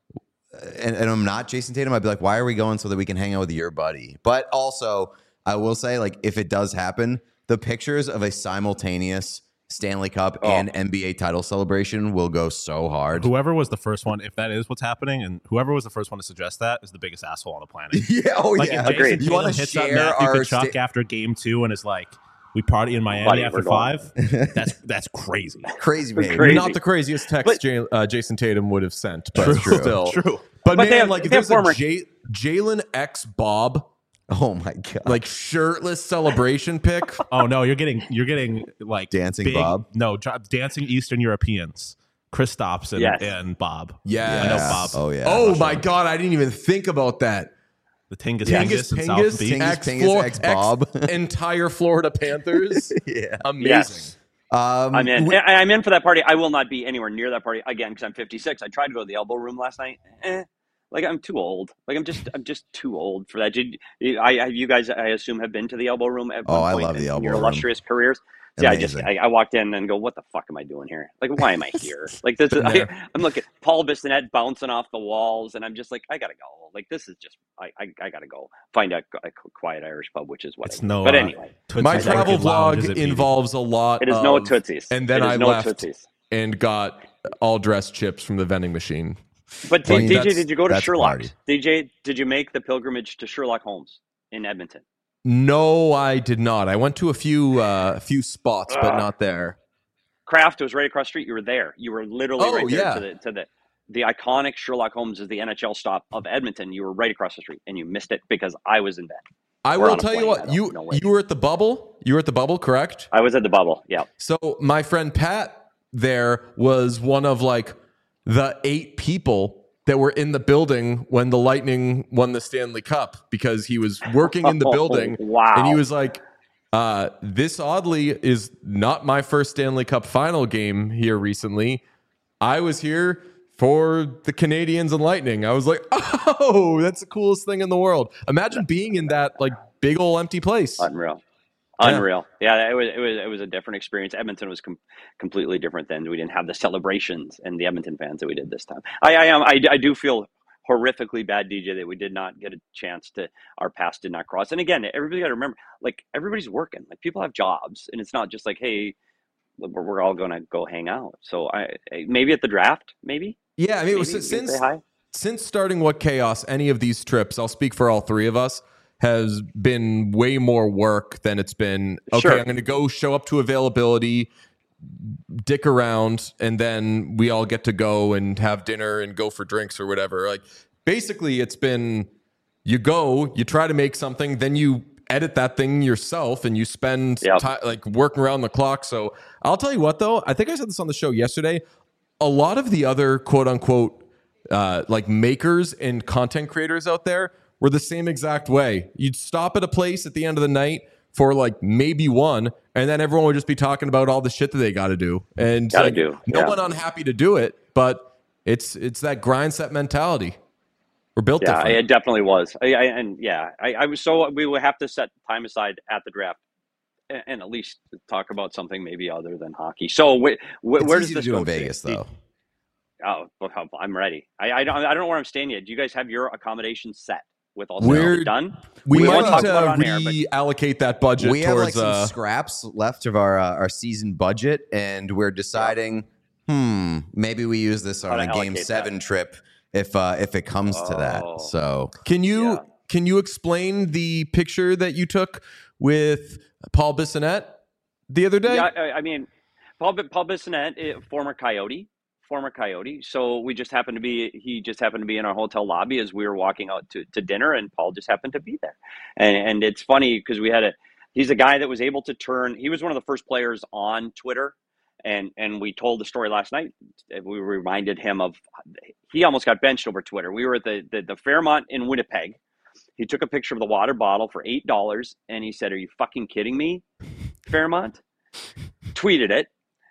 and I'm not Jason Tatum, I'd be like, why are we going so that we can hang out with your buddy? But also, I will say, like, if it does happen, the pictures of a simultaneous Stanley Cup and NBA title celebration will go so hard. Whoever was the first one, if that is what's happening, and whoever was the first one to suggest that is the biggest asshole on the planet. Yeah, Like, if Jason You want Tatum to hits up share Matthew our Tkachuk after game 2 and is like, we party in Miami Buddy, after we're going. 5, that's crazy. crazy behavior. Crazy. Not the craziest text Jason Tatum would have sent, but True. still. True. But But they man, have- like if they have there's a former- Jalen X Bob Oh my god! like shirtless celebration pic. Oh no, you're getting like Dancing big, Bob? No, dancing Eastern Europeans. Kristaps and, Yes. and Bob. Yes. I know Bob. Oh yeah. Oh my god, I didn't even think about that. The Tingus Tingus Pingus and South Beach. Tingus X Pingus, X Bob. entire Florida Panthers. Yeah. Amazing. Yes. I'm in. I'm in for that party. I will not be anywhere near that party again because I'm 56. I tried to go to the Elbow Room last night. Like I'm too old. Like I'm just too old for that. You guys, I assume, have been to the Elbow Room at one I point love the in Elbow your Room. illustrious careers. Yeah, Amazing. I walked in and go, what the fuck am I doing here? Like, why am I here? Like this is, I'm looking Paul Bissonnette bouncing off the walls, and I'm just like, I gotta go. Like this is just, I gotta go find a quiet Irish pub, which is what. It's I do. no. But anyway, Tootsie's My Orchid travel Lounge is vlog at BB. involves a lot. it is of, no Tootsies. and then It is I no left Tootsies. and got all dressed chips from the vending machine. But I mean, DJ, that's- did you go to that's a Sherlock's? party. DJ, did you make the pilgrimage to Sherlock Holmes in Edmonton? No, I did not. I went to a few spots, but not there. Kraft was right across the street. You were there. You were literally Oh, right there yeah. to the iconic Sherlock Holmes is the NHL stop of Edmonton. You were right across the street, and you missed it because I was in bed. I We're will on a tell you plane. what, I don't know where. you were at the bubble. You were at the bubble, correct? I was at the bubble. Yeah. So my friend Pat there was one of like the 8 people that were in the building when the Lightning won the Stanley Cup because he was working in the building. Wow. And he was like, this oddly is not my first Stanley Cup final game here recently. I was here for the Canadians and Lightning. I was like, oh, that's the coolest thing in the world. Imagine being in that like big old empty place. Unreal. Yeah. Unreal. Yeah, it was a different experience. Edmonton was completely different then. We didn't have the celebrations and the Edmonton fans that we did this time. I do feel horrifically bad, DJ, that we did not get a chance to, our paths did not cross. And again, everybody got to remember, like everybody's working, like people have jobs, and it's not just like, hey, we're all going to go hang out. So maybe at the draft, maybe. Yeah, I mean, Maybe you can say since hi. since starting What Chaos, any of these trips, I'll speak for all 3 of us, has been way more work than it's been, okay, Sure. I'm going to go show up to availability, dick around, and then we all get to go and have dinner and go for drinks or whatever. Like, basically, it's been, you go, you try to make something, then you edit that thing yourself and you spend Yep. time like working around the clock. So I'll tell you what, though, I think I said this on the show yesterday. A lot of the other quote unquote like makers and content creators out there were the same exact way. You'd stop at a place at the end of the night for like maybe one, and then everyone would just be talking about all the shit that they got to do. And Gotta like, do, no yeah. one unhappy to do it, but it's that grind set mentality. We're built Yeah, different. it definitely was. I was so we would have to set time aside at the draft and at least talk about something maybe other than hockey. So where It's does easy this to do go in Vegas, though. Oh, well, I'm ready. I don't know where I'm staying yet. Do you guys have your accommodations set with all We're- stuff done? we won't might talk need about it on to air, but reallocate that budget We have like towards some scraps left of our season budget, and we're deciding, maybe we use this on How a to Game allocate 7 trip if it comes to Oh. that. So Can you Yeah. can you explain the picture that you took with Paul Bissonnette the other day? yeah, I mean, Paul Bissonnette, former Coyote. So he just happened to be in our hotel lobby as we were walking out to dinner, and Paul just happened to be there. And it's funny because he's a guy that was able to he was one of the first players on Twitter. And we told the story last night. We reminded him of, he almost got benched over Twitter. We were at the Fairmont in Winnipeg. He took a picture of the water bottle for $8 and he said, "Are you fucking kidding me, Fairmont?" Tweeted it.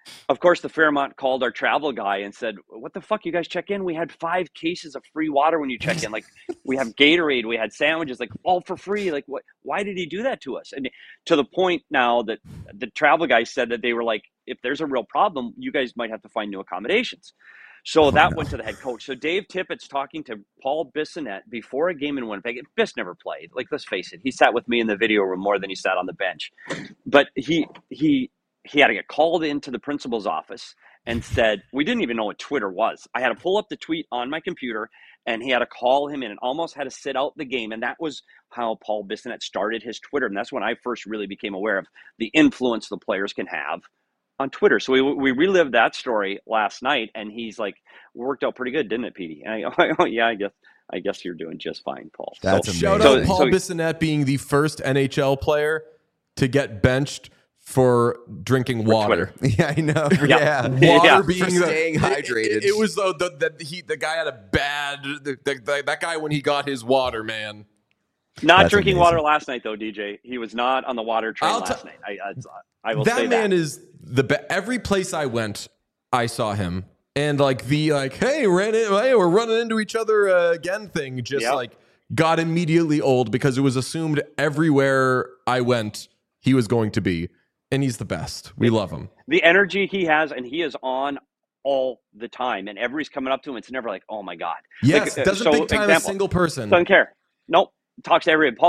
of course, the Fairmont called our travel guy and said, "What the fuck, you guys check in? We had 5 cases of free water when you check in. Like, we have Gatorade, we had sandwiches, like all for free. Like, what? Why did he do that to us?" And to the point now that the travel guy said that they were like, "If there's a real problem, you guys might have to find new accommodations." So that went to the head coach. So Dave Tippett's talking to Paul Bissonnette before a game in Winnipeg. Biss never played. Like, let's face it, he sat with me in the video room more than he sat on the bench. But he had to get called into the principal's office and said, we didn't even know what Twitter was. I had to pull up the tweet on my computer, and he had to call him in and almost had to sit out the game. And that was how Paul Bissonnette started his Twitter. And that's when I first really became aware of the influence the players can have on Twitter. So we relived that story last night, and he's like, worked out pretty good, didn't it, Petey? And I go, oh, yeah, I guess you're doing just fine, Paul. That's So, shout amazing. out Paul Bissonnette being the first NHL player to get benched for drinking water. Yeah, I know. Yeah. Yeah. Water For being staying hydrated. It was the guy had a bad that guy when he got his water, man. Not That's drinking amazing. water last night, though, DJ. He was not on the water train last night. I will say That man that. is every place I went, I saw him. And like hey, we're running into each other again thing just like got immediately old because it was assumed everywhere I went he was going to be. And he's the best. We love him. The energy he has, and he is on all the time. And everybody's coming up to him. It's never like, oh my God. Yes, like, doesn't big time a single person. Doesn't care. Nope. Talks to everybody.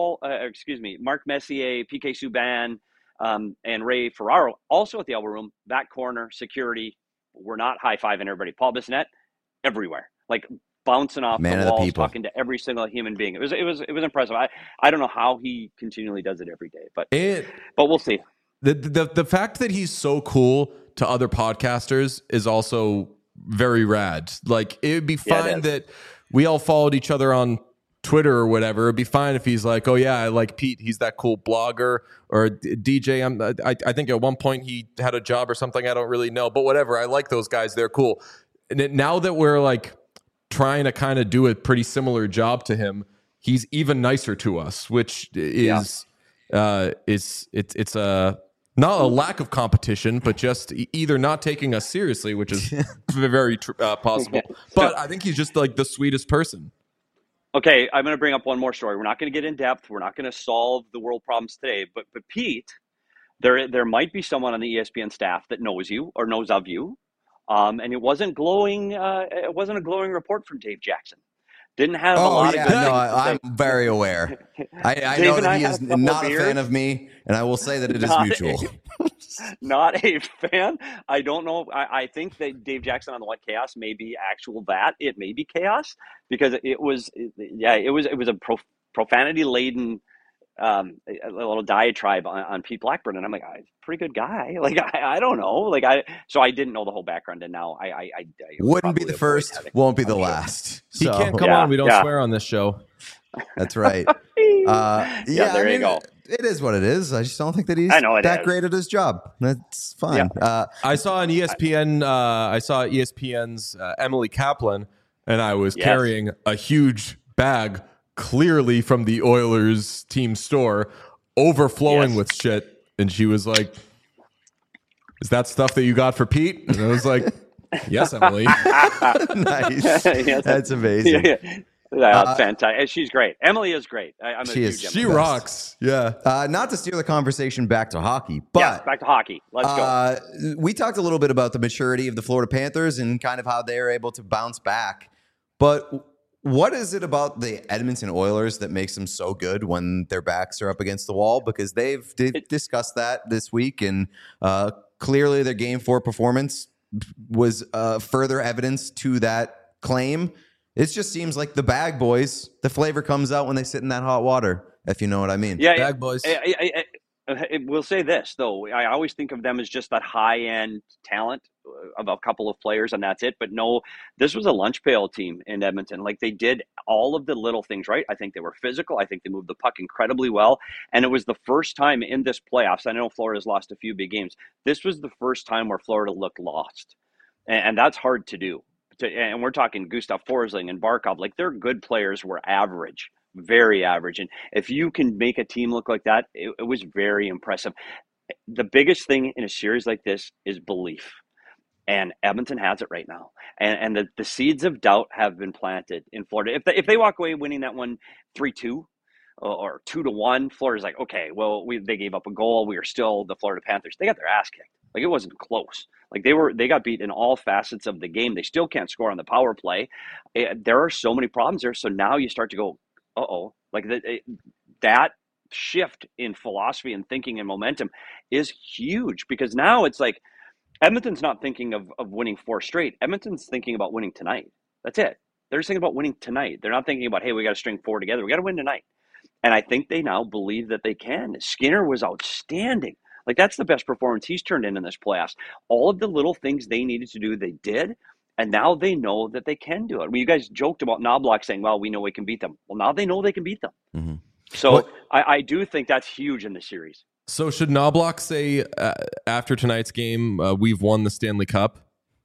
Mark Messier, PK Subban, and Ray Ferraro, also at the elbow room, back corner, security. We're not high-fiving everybody. Paul Bissonnette, everywhere. Like bouncing off Man the of the walls, people. talking to every single human being. It was impressive. I don't know how he continually does it every day, but we'll see. The fact that he's so cool to other podcasters is also very rad. Like, it would be fine that we all followed each other on Twitter or whatever. It'd be fine if he's like, oh yeah, I like Pete. He's that cool blogger. Or DJ. I think at one point he had a job or something. I don't really know, but whatever. I like those guys. They're cool. And now that we're like trying to kind of do a pretty similar job to him, he's even nicer to us, which is it's a not a lack of competition, but just either not taking us seriously, which is very possible. But I think he's just like the sweetest person. Okay, I'm going to bring up one more story. We're not going to get in depth. We're not going to solve the world problems today. But Pete, there might be someone on the ESPN staff that knows you or knows of you, and it wasn't glowing. It wasn't a glowing report from Dave Jackson. Didn't have a lot of good things to say. I'm very aware. I Dave know and that I he had is a couple not a beers. fan of me, and I will say that it is Not mutual. Not a fan. I don't know. I think that Dave Jackson on the What Chaos may be actual that. It may be chaos because it was a profanity laden a little diatribe on Pete Blackburn, and I'm like, pretty good guy. Like I don't know. Like so I didn't know the whole background, and now I Wouldn't be the first, won't be the last. He So, can't come on. We don't swear on this show. That's right. There you go. It is what it is. I just don't think that he's I know it that is. great at his job. That's fine. I saw on ESPN. I saw ESPN's Emily Kaplan, and I was carrying a huge bag, clearly from the Oilers team store, overflowing with shit. And she was like, "Is that stuff that you got for Pete?" And I was like, "Yes, Emily." Nice. Yes. That's amazing. That's fantastic. She's great. Emily is great. I'm She is. She rocks. Yeah. Not to steer the conversation back to hockey, but back to hockey. Let's go. We talked a little bit about the maturity of the Florida Panthers and kind of how they're able to bounce back. But what is it about the Edmonton Oilers that makes them so good when their backs are up against the wall? Because they've discussed that this week, and clearly their Game 4 performance was further evidence to that claim. It just seems like the bag boys, the flavor comes out when they sit in that hot water, if you know what I mean. Yeah, Bag boys. I will say this, though. I always think of them as just that high-end talent of a couple of players, and that's it. But no, this was a lunch pail team in Edmonton. Like, they did all of the little things right. I think they were physical. I think they moved the puck incredibly well. And it was the first time in this playoffs. I know Florida's lost a few big games. This was the first time where Florida looked lost. And that's hard to do. And we're talking Gustav Forsling and Barkov. Like, their good players were average, very average. And if you can make a team look like that, it was very impressive. the biggest thing in a series like this is belief. And Edmonton has it right now. And the seeds of doubt have been planted in Florida. If they walk away winning that one 3-2 or 2-1, Florida's like, okay, well, they gave up a goal. We are still the Florida Panthers. They got their ass kicked. Like, it wasn't close. Like, they got beat in all facets of the game. They still can't score on the power play. There are so many problems there. So now you start to go, uh-oh. Like, that shift in philosophy and thinking and momentum is huge, because now it's like, Edmonton's not thinking of winning 4 straight. Edmonton's thinking about winning tonight. That's it. They're just thinking about winning tonight. They're not thinking about, hey, we got to string 4 together. We got to win tonight. And I think they now believe that they can. Skinner was outstanding. Like, that's the best performance he's turned in this playoffs. All of the little things they needed to do, they did. And now they know that they can do it. I mean, you guys joked about Knobloch saying, well, we know we can beat them. Well, now they know they can beat them. Mm-hmm. So I do think that's huge in the series. So should Knobloch say after tonight's game, we've won the Stanley Cup?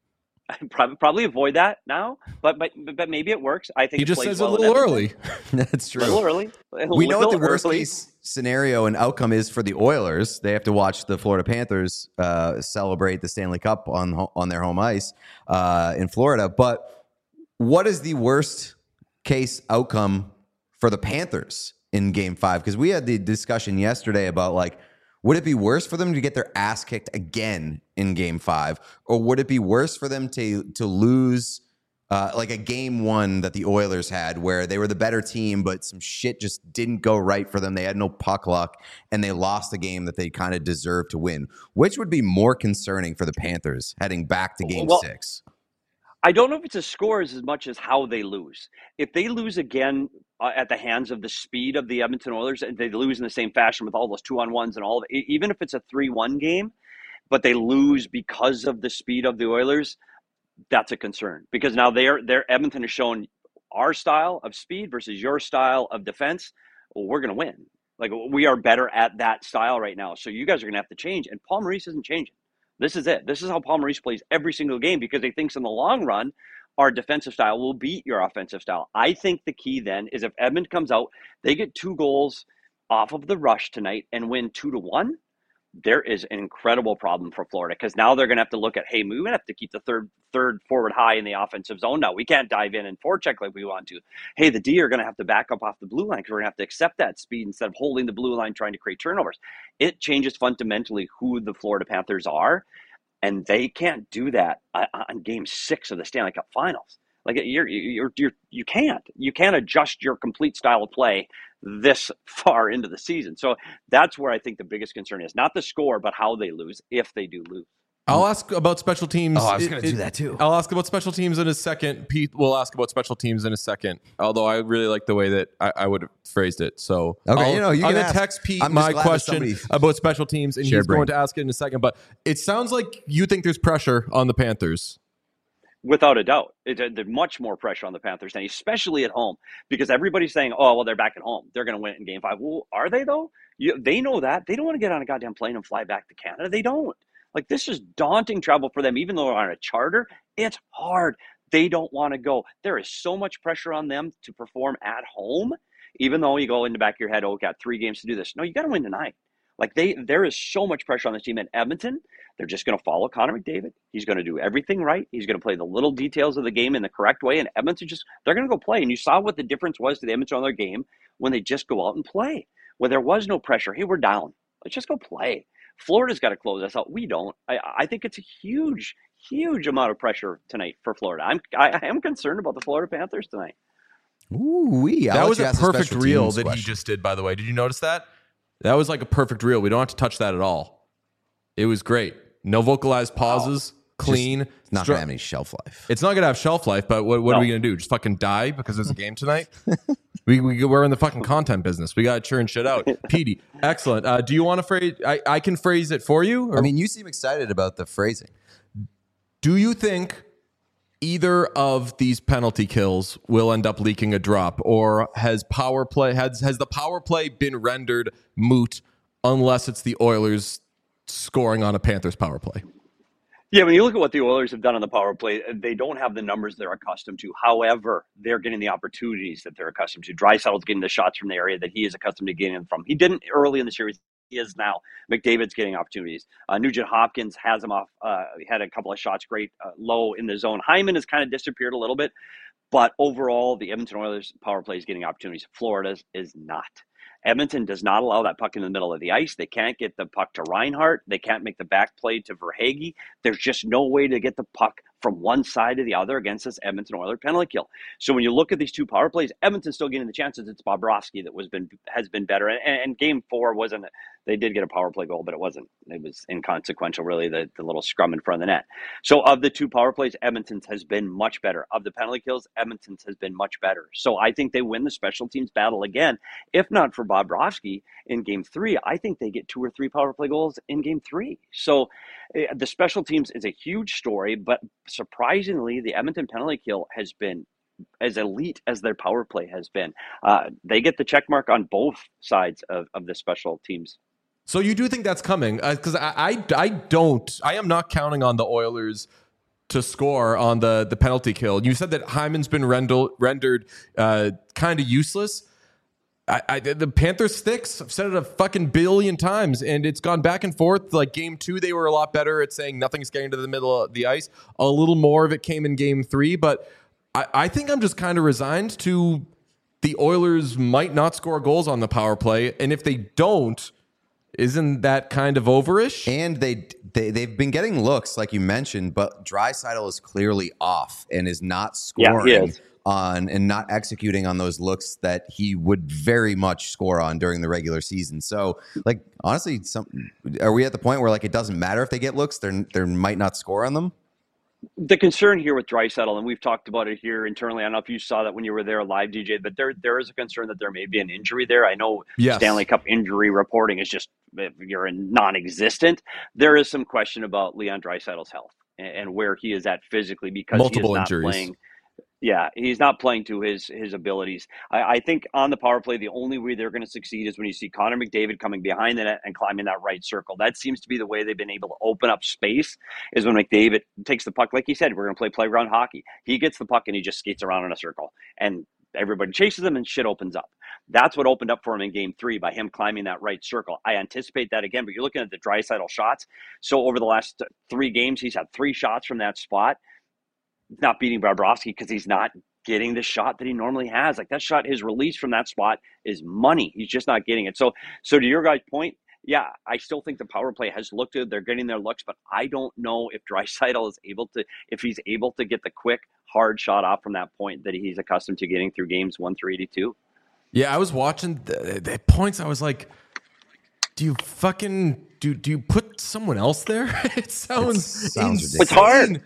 Probably avoid that now, but maybe it works. I think he just says it a little early. That's true. A little early. We know what the worst case scenario and outcome is for the Oilers. They have to watch the Florida Panthers celebrate the Stanley Cup on their home ice in Florida. But what is the worst case outcome for the Panthers in Game 5? Because we had the discussion yesterday about, like, would it be worse for them to get their ass kicked again in Game 5? Or would it be worse for them to lose like a Game 1 that the Oilers had, where they were the better team, but some shit just didn't go right for them? They had no puck luck, and they lost a game that they kind of deserved to win. Which would be more concerning for the Panthers heading back to Game 6? I don't know if it's a score as much as how they lose. If they lose again at the hands of the speed of the Edmonton Oilers, and they lose in the same fashion with all those 2-on-1s and all of it, even if it's a 3-1 game, but they lose because of the speed of the Oilers, that's a concern. Because now Edmonton has shown our style of speed versus your style of defense. Well, we're going to win. Like, we are better at that style right now. So you guys are going to have to change. And Paul Maurice isn't changing. This is it. This is how Paul Maurice plays every single game, because he thinks in the long run, our defensive style will beat your offensive style. I think the key then is if Edmonton comes out, they get 2 goals off of the rush tonight and win 2-1, there is an incredible problem for Florida, because now they're going to have to look at, hey, we're going to have to keep the third forward high in the offensive zone now. We can't dive in and forecheck like we want to. Hey, the D are going to have to back up off the blue line, because we're going to have to accept that speed instead of holding the blue line trying to create turnovers. It changes fundamentally who the Florida Panthers are, and they can't do that on Game 6 of the Stanley Cup Finals. Like, you can't adjust your complete style of play this far into the season. So that's where I think the biggest concern is, not the score, but how they lose, if they do lose. I'll ask about special teams. Oh, I was going to do that too. I'll ask about special teams in a second. Pete will ask about special teams in a second. Although I really like the way that I would have phrased it. So okay, I'm going to text Pete my question about special teams, and he's going to ask it in a second. But it sounds like you think there's pressure on the Panthers. Without a doubt. There's much more pressure on the Panthers now, especially at home, because everybody's saying, oh, well, they're back at home. They're going to win it in Game 5. Well, are they, though? They know that. They don't want to get on a goddamn plane and fly back to Canada. They don't. Like, this is daunting travel for them. Even though they're on a charter, it's hard. They don't want to go. There is so much pressure on them to perform at home, even though you go in the back of your head, oh, we got 3 games to do this. No, you got to win tonight. Like, there is so much pressure on this team. In Edmonton, they're just going to follow Connor McDavid. He's going to do everything right. He's going to play the little details of the game in the correct way. And Edmonton they're going to go play. And you saw what the difference was to the Edmonton on their game when they just go out and play, where there was no pressure. Hey, we're down. Let's just go play. Florida's got to close us out. We don't. I think it's a huge, huge amount of pressure tonight for Florida. I am concerned about the Florida Panthers tonight. Ooh-wee. That was a perfect reel that he just did, by the way. Did you notice that? That was like a perfect reel. We don't have to touch that at all. It was great. No vocalized pauses. Clean. It's not going to have any shelf life. It's not going to have shelf life, but what are we going to do? Just fucking die because there's a game tonight? We're in the fucking content business. We got to churn shit out. Petey, excellent. Do you want to phrase? I can phrase it for you. Or? I mean, you seem excited about the phrasing. Do you think either of these penalty kills will end up leaking a drop, or has the power play been rendered moot unless it's the Oilers scoring on a Panthers power play? Yeah, when you look at what the Oilers have done on the power play, they don't have the numbers they're accustomed to. However, they're getting the opportunities that they're accustomed to. Draisaitl's getting the shots from the area that he is accustomed to getting them from. He didn't early in the series he is now. McDavid's getting opportunities. Nugent Hopkins has him off. He had a couple of shots great low in the zone. Hyman has kind of disappeared a little bit. But overall, the Edmonton Oilers power play is getting opportunities. Florida's is not. Edmonton does not allow that puck in the middle of the ice. They can't get the puck to Reinhart. They can't make the back play to Verhaeghe. There's just no way to get the puck from one side to the other against this Edmonton Oilers penalty kill. So when you look at these two power plays, Edmonton's still getting the chances. It's Bobrovsky that has been better. And game 4 wasn't. They did get a power play goal, but it wasn't. It was inconsequential, really, the little scrum in front of the net. So of the two power plays, Edmonton's has been much better. Of the penalty kills, Edmonton's has been much better. So I think they win the special teams battle again. If not for Bobrovsky in game 3, I think they get 2 or 3 power play goals in game 3. So the special teams is a huge story, but surprisingly, the Edmonton penalty kill has been as elite as their power play has been. They get the check mark on both sides of the special teams. So you do think that's coming? Because I am not counting on the Oilers to score on the penalty kill. You said that Hyman's been rendered kind of useless. The Panthers sticks, I've said it a fucking billion times, and it's gone back and forth. Like game 2, they were a lot better at saying nothing's getting to the middle of the ice. A little more of it came in game 3, but I think I'm just kind of resigned to the Oilers might not score goals on the power play, and if they don't, isn't that kind of overish? And they've been getting looks, like you mentioned, but Draisaitl is clearly off and is not scoring on and not executing on those looks that he would very much score on during the regular season. So, like, honestly, are we at the point where, like, it doesn't matter if they get looks, they might not score on them? The concern here with Draisaitl, and we've talked about it here internally, I don't know if you saw that when you were there live, DJ, but there is a concern that there may be an injury there. I know Stanley Cup injury reporting is just, you're non-existent. There is some question about Leon Draisaitl's health and where he is at physically because multiple he is not injuries. Playing. Yeah, he's not playing to his abilities. I think on the power play, the only way they're going to succeed is when you see Connor McDavid coming behind the net and climbing that right circle. That seems to be the way they've been able to open up space, is when McDavid takes the puck. Like he said, we're going to play playground hockey. He gets the puck and he just skates around in a circle. And everybody chases him and shit opens up. That's what opened up for him in game 3 by him climbing that right circle. I anticipate that again, but you're looking at the Draisaitl shots. So over the last 3 games, he's had 3 shots from that spot. Not beating Bobrovsky because he's not getting the shot that he normally has. Like that shot, his release from that spot is money. He's just not getting it. So to your guys' point, yeah, I still think the power play has looked good. They're getting their looks, but I don't know if Draisaitl is if he's able to get the quick, hard shot off from that point that he's accustomed to getting through games 1 through 82. Yeah, I was watching the points. I was like, do you put someone else there? It sounds ridiculous. It's hard.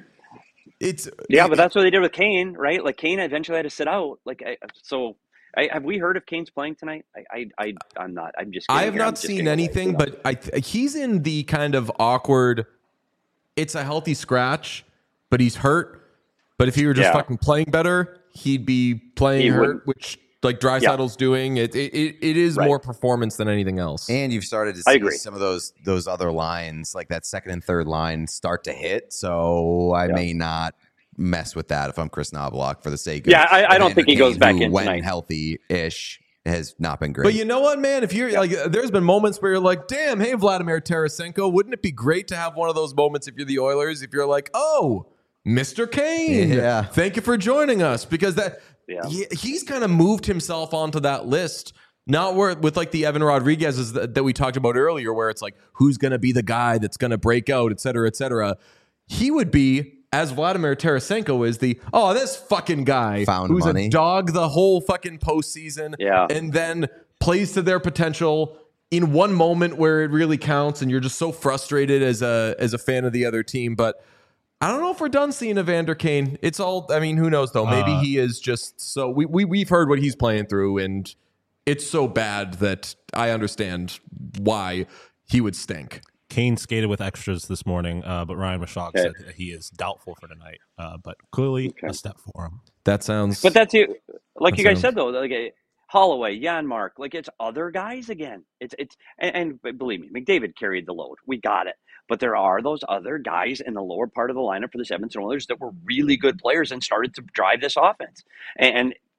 But that's what they did with Kane, right? Like Kane eventually had to sit out. Have we heard if Kane's playing tonight? I'm not. I'm just. I have not seen anything, but he's in the kind of awkward. It's a healthy scratch, but he's hurt. But if he were just fucking playing better, he'd be playing hurt, which like Draisaitl's doing. It is more performance than anything else. And you've started to see some of those other lines, like that second and third line, start to hit. So I may not mess with that if I'm Chris Knoblauch for the sake of I don't think he goes back in when tonight. Healthy-ish has not been great. But you know what, man? If you're like, there's been moments where you're like, damn, hey, Vladimir Tarasenko, wouldn't it be great to have one of those moments if you're the Oilers? If you're like, oh, Mr. Kane, thank you for joining us, because he's kind of moved himself onto that list. Not with like the Evan Rodriguez's that we talked about earlier, where it's like, who's going to be the guy that's going to break out, et cetera, et cetera. He would be, as Vladimir Tarasenko is, this fucking guy who's a dog the whole fucking postseason and then plays to their potential in one moment where it really counts, and you're just so frustrated as a fan of the other team. But I don't know if we're done seeing Evander Kane. It's all, I mean, who knows though? Maybe he is just so we've heard what he's playing through, and it's so bad that I understand why he would stink. Kane skated with extras this morning, but Ryan Mashak said that he is doubtful for tonight. But clearly a step for him. That sounds. But that's it. Like you guys said though, like Holloway, Janmark, like it's other guys again. And believe me, McDavid carried the load. We got it. But there are those other guys in the lower part of the lineup for the Edmonton Oilers that were really good players and started to drive this offense. And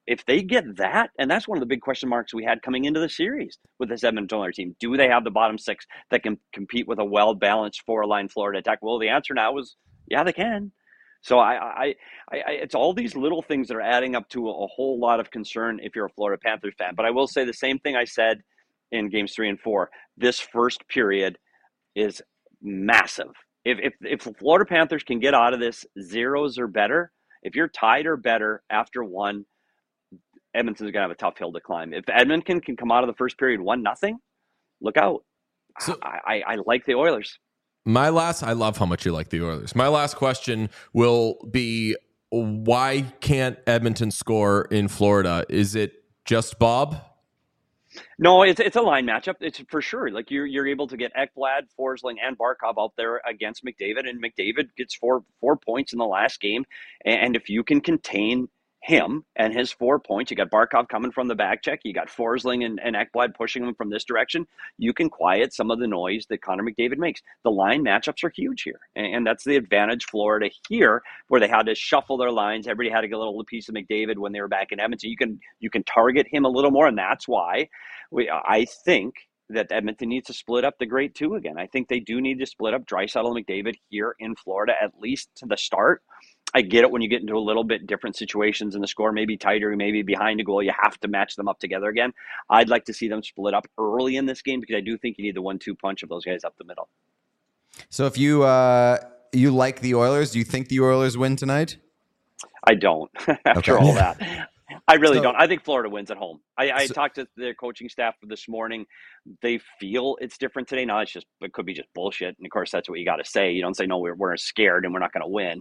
if they get that, and that's one of the big question marks we had coming into the series with this Edmonton Oilers team. Do they have the bottom six that can compete with a well-balanced four-line Florida attack? Well, the answer now is, yeah, they can. So I it's all these little things that are adding up to a whole lot of concern if you're a Florida Panthers fan. But I will say the same thing I said in games 3 and 4. This first period is massive. If the Florida Panthers can get out of this zeros or better, if you're tied or better after one, Edmonton's gonna have a tough hill to climb. If Edmonton can come out of the first period 1-0, look out. So, I like the Oilers. I love how much you like the Oilers. My last question will be, why can't Edmonton score in Florida? Is it just Bob? No, it's a line matchup. It's for sure. Like you're able to get Ekblad, Forsling, and Barkov out there against McDavid, and McDavid gets four points in the last game. And if you can contain him and his 4 points, you got Barkov coming from the back check, you got Forsling and Ekblad pushing him from this direction, you can quiet some of the noise that Connor McDavid makes. The line matchups are huge here, and that's the advantage Florida here, where they had to shuffle their lines. Everybody had to get a little piece of McDavid when they were back in Edmonton. You can target him a little more, and that's why I think that Edmonton needs to split up the great two again. I think they do need to split up Draisaitl and McDavid here in Florida, at least to the start. I get it when you get into a little bit different situations and the score may be tighter, maybe behind a goal, you have to match them up together again. I'd like to see them split up early in this game because I do think you need the 1-2 punch of those guys up the middle. So if you you like the Oilers, do you think the Oilers win tonight? I don't. After all that. I really don't. I think Florida wins at home. I talked to their coaching staff this morning. They feel it's different today. Now it could be just bullshit. And of course, that's what you got to say. You don't say, no, we're scared and we're not going to win.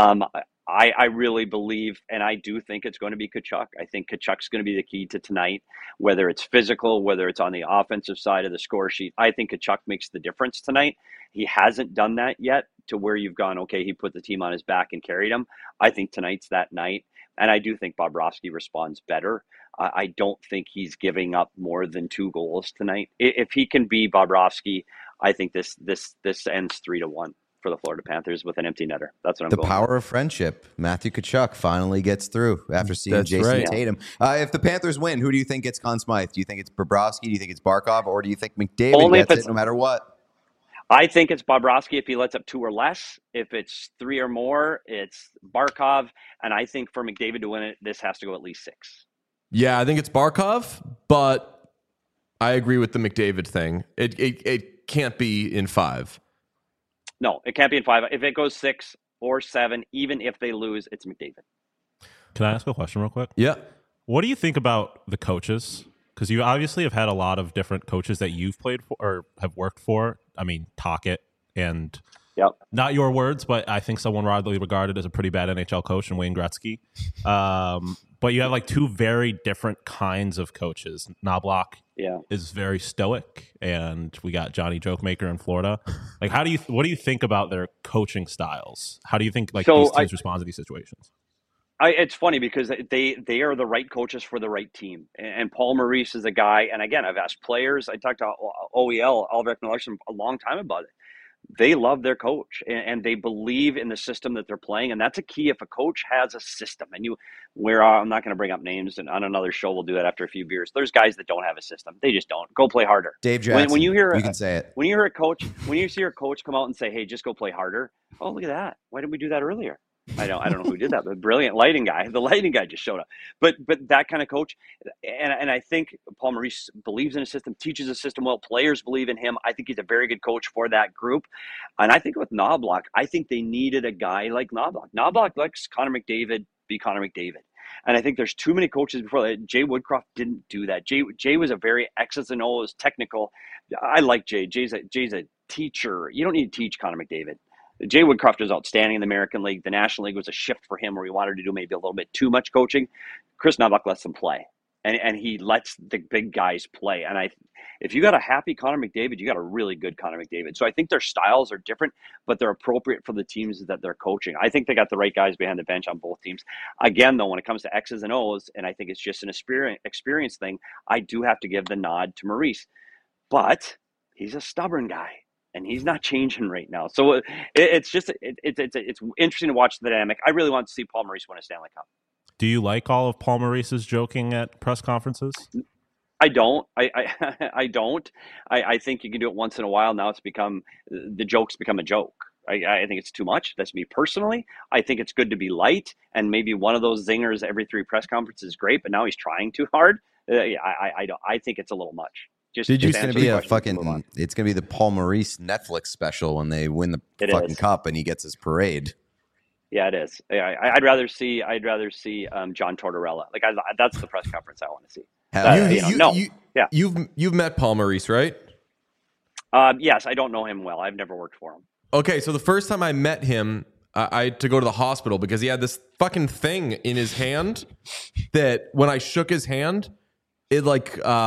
I really believe, and I do think it's going to be Tkachuk. I think Tkachuk's going to be the key to tonight, whether it's physical, whether it's on the offensive side of the score sheet. I think Tkachuk makes the difference tonight. He hasn't done that yet to where you've gone, okay, he put the team on his back and carried him. I think tonight's that night. And I do think Bobrovsky responds better. I don't think he's giving up more than 2 goals tonight. If he can be Bobrovsky, I think this ends 3-1 for the Florida Panthers with an empty netter. That's what I'm going with. The power of friendship. Matthew Tkachuk finally gets through after seeing Jason Tatum. If the Panthers win, who do you think gets Conn Smythe? Do you think it's Bobrovsky? Do you think it's Barkov? Or do you think McDavid gets it no matter what? I think it's Bobrovsky if he lets up 2 or less. If it's 3 or more, it's Barkov. And I think for McDavid to win it, this has to go at least 6. Yeah, I think it's Barkov, but I agree with the McDavid thing. It can't be in 5. No, it can't be in 5. If it goes 6 or 7, even if they lose, it's McDavid. Can I ask a question real quick? Yeah. What do you think about the coaches? Because you obviously have had a lot of different coaches that you've played for or have worked for. I mean, Tocchet and not your words, but I think someone widely regarded as a pretty bad NHL coach in Wayne Gretzky. But you have like 2 very different kinds of coaches. Knobloch is very stoic, and we got Johnny Jokemaker in Florida. Like, what do you think about their coaching styles? How do you think these teams respond to these situations? It's funny because they are the right coaches for the right team. And Paul Maurice is a guy, and again, I've asked players, I talked to OEL, Albrecht Larson, a long time about it. They love their coach and they believe in the system that they're playing. And that's a key. If a coach has a system and I'm not going to bring up names, and on another show, we'll do that after a few beers. There's guys that don't have a system. They just don't. Go play harder. Dave Jackson, when you can say it. When you hear a coach, when you see your coach come out and say, hey, just go play harder. Oh, look at that. Why didn't we do that earlier? I don't know who did that, but brilliant lighting guy. The lighting guy just showed up. But that kind of coach, and I think Paul Maurice believes in a system, teaches a system well. Players believe in him. I think he's a very good coach for that group. And I think with Knobloch, I think they needed a guy like Knobloch. Knobloch lets Connor McDavid be Connor McDavid. And I think there's too many coaches before that. Jay Woodcroft didn't do that. Jay was a very X's and O's technical. I like Jay. Jay's a teacher. You don't need to teach Connor McDavid. Jay Woodcroft was outstanding in the American League. The National League was a shift for him where he wanted to do maybe a little bit too much coaching. Chris Knobloch lets them play, and he lets the big guys play. And if you got a happy Connor McDavid, you got a really good Connor McDavid. So I think their styles are different, but they're appropriate for the teams that they're coaching. I think they got the right guys behind the bench on both teams. Again, though, when it comes to X's and O's, and I think it's just an experience thing, I do have to give the nod to Maurice. But he's a stubborn guy. And he's not changing right now. So it's interesting to watch the dynamic. I really want to see Paul Maurice win a Stanley Cup. Do you like all of Paul Maurice's joking at press conferences? I don't. I don't. I think you can do it once in a while. Now the joke's become a joke. I think it's too much. That's me personally. I think it's good to be light, and maybe one of those zingers every 3 press conferences is great. But now he's trying too hard. I think it's a little much. Just Did you It's gonna be a fucking. It's gonna be the Paul Maurice Netflix special when they win the fucking cup and he gets his parade. Yeah, it is. I'd rather see John Tortorella. Like that's the press conference I want to see. You've met Paul Maurice, right? Yes, I don't know him well. I've never worked for him. Okay, so the first time I met him, I had to go to the hospital because he had this fucking thing in his hand that when I shook his hand, it was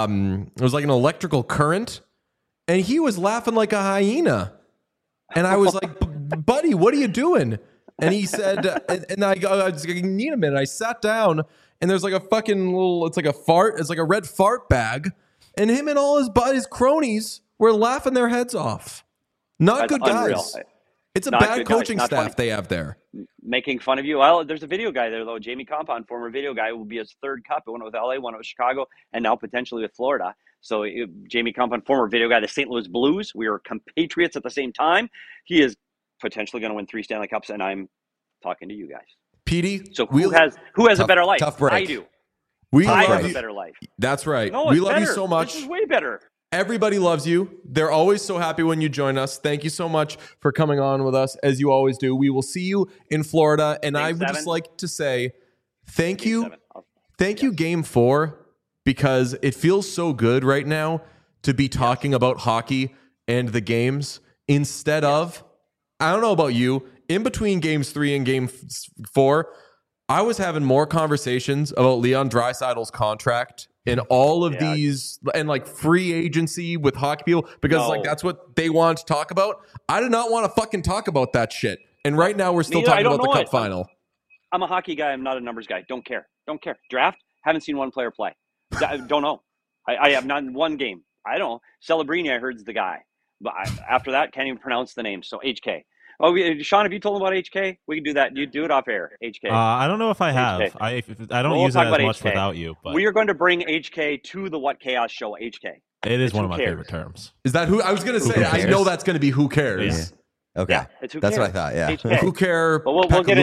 like an electrical current, and he was laughing like a hyena, and I was like, "Buddy, what are you doing?" And he said, and I was like, "Need a minute." I sat down, and there's like a fucking it's like a red fart bag, and him and all his cronies were laughing their heads off. Not That's good guys. unreal. It's a Not bad good guys. coaching Not staff funny. they have there. Making fun of you. Well, there's a video guy there though. Jamie Compound, former video guy, will be his 3rd cup. One with LA, one with Chicago, and now potentially with Florida. So Jamie Compound, former video guy, the St. Louis Blues. We were compatriots at the same time. He is potentially going to win 3 Stanley Cups, and I'm talking to you guys. Petey, So who has a better life? tough break. I do. we I love have you. a better life. That's right. No, We it's love better. you so much. This is way better. Everybody loves you. They're always so happy when you join us. Thank you so much for coming on with us, as you always do. We will see you in Florida. And I would just like to say thank you. Thank you, Game 4, because it feels so good right now to be talking about hockey and the games instead of, I don't know about you, in between Games 3 and Game 4, I was having more conversations about Leon Draisaitl's contract and all of these and like free agency with hockey people because like that's what they want to talk about. I did not want to fucking talk about that shit. And right now we're still talking about the cup final. I'm a hockey guy. I'm not a numbers guy. Don't care. Draft. Haven't seen one player play. Don't know. I have not one game. I don't know. Celebrini, I heard, is the guy. But after that, can't even pronounce the name. So HK. Oh, Sean, have you told him about HK? We can do that. You do it off air. HK. I don't know if I have. HK. I don't use it as much HK. Without you. But we are going to bring HK to the What Chaos show. HK. It is one of my favorite terms. Is that who I was going to say? I know that's going to be who cares. Yeah. Okay, that's what I thought. Yeah, HK. Who care? But we'll get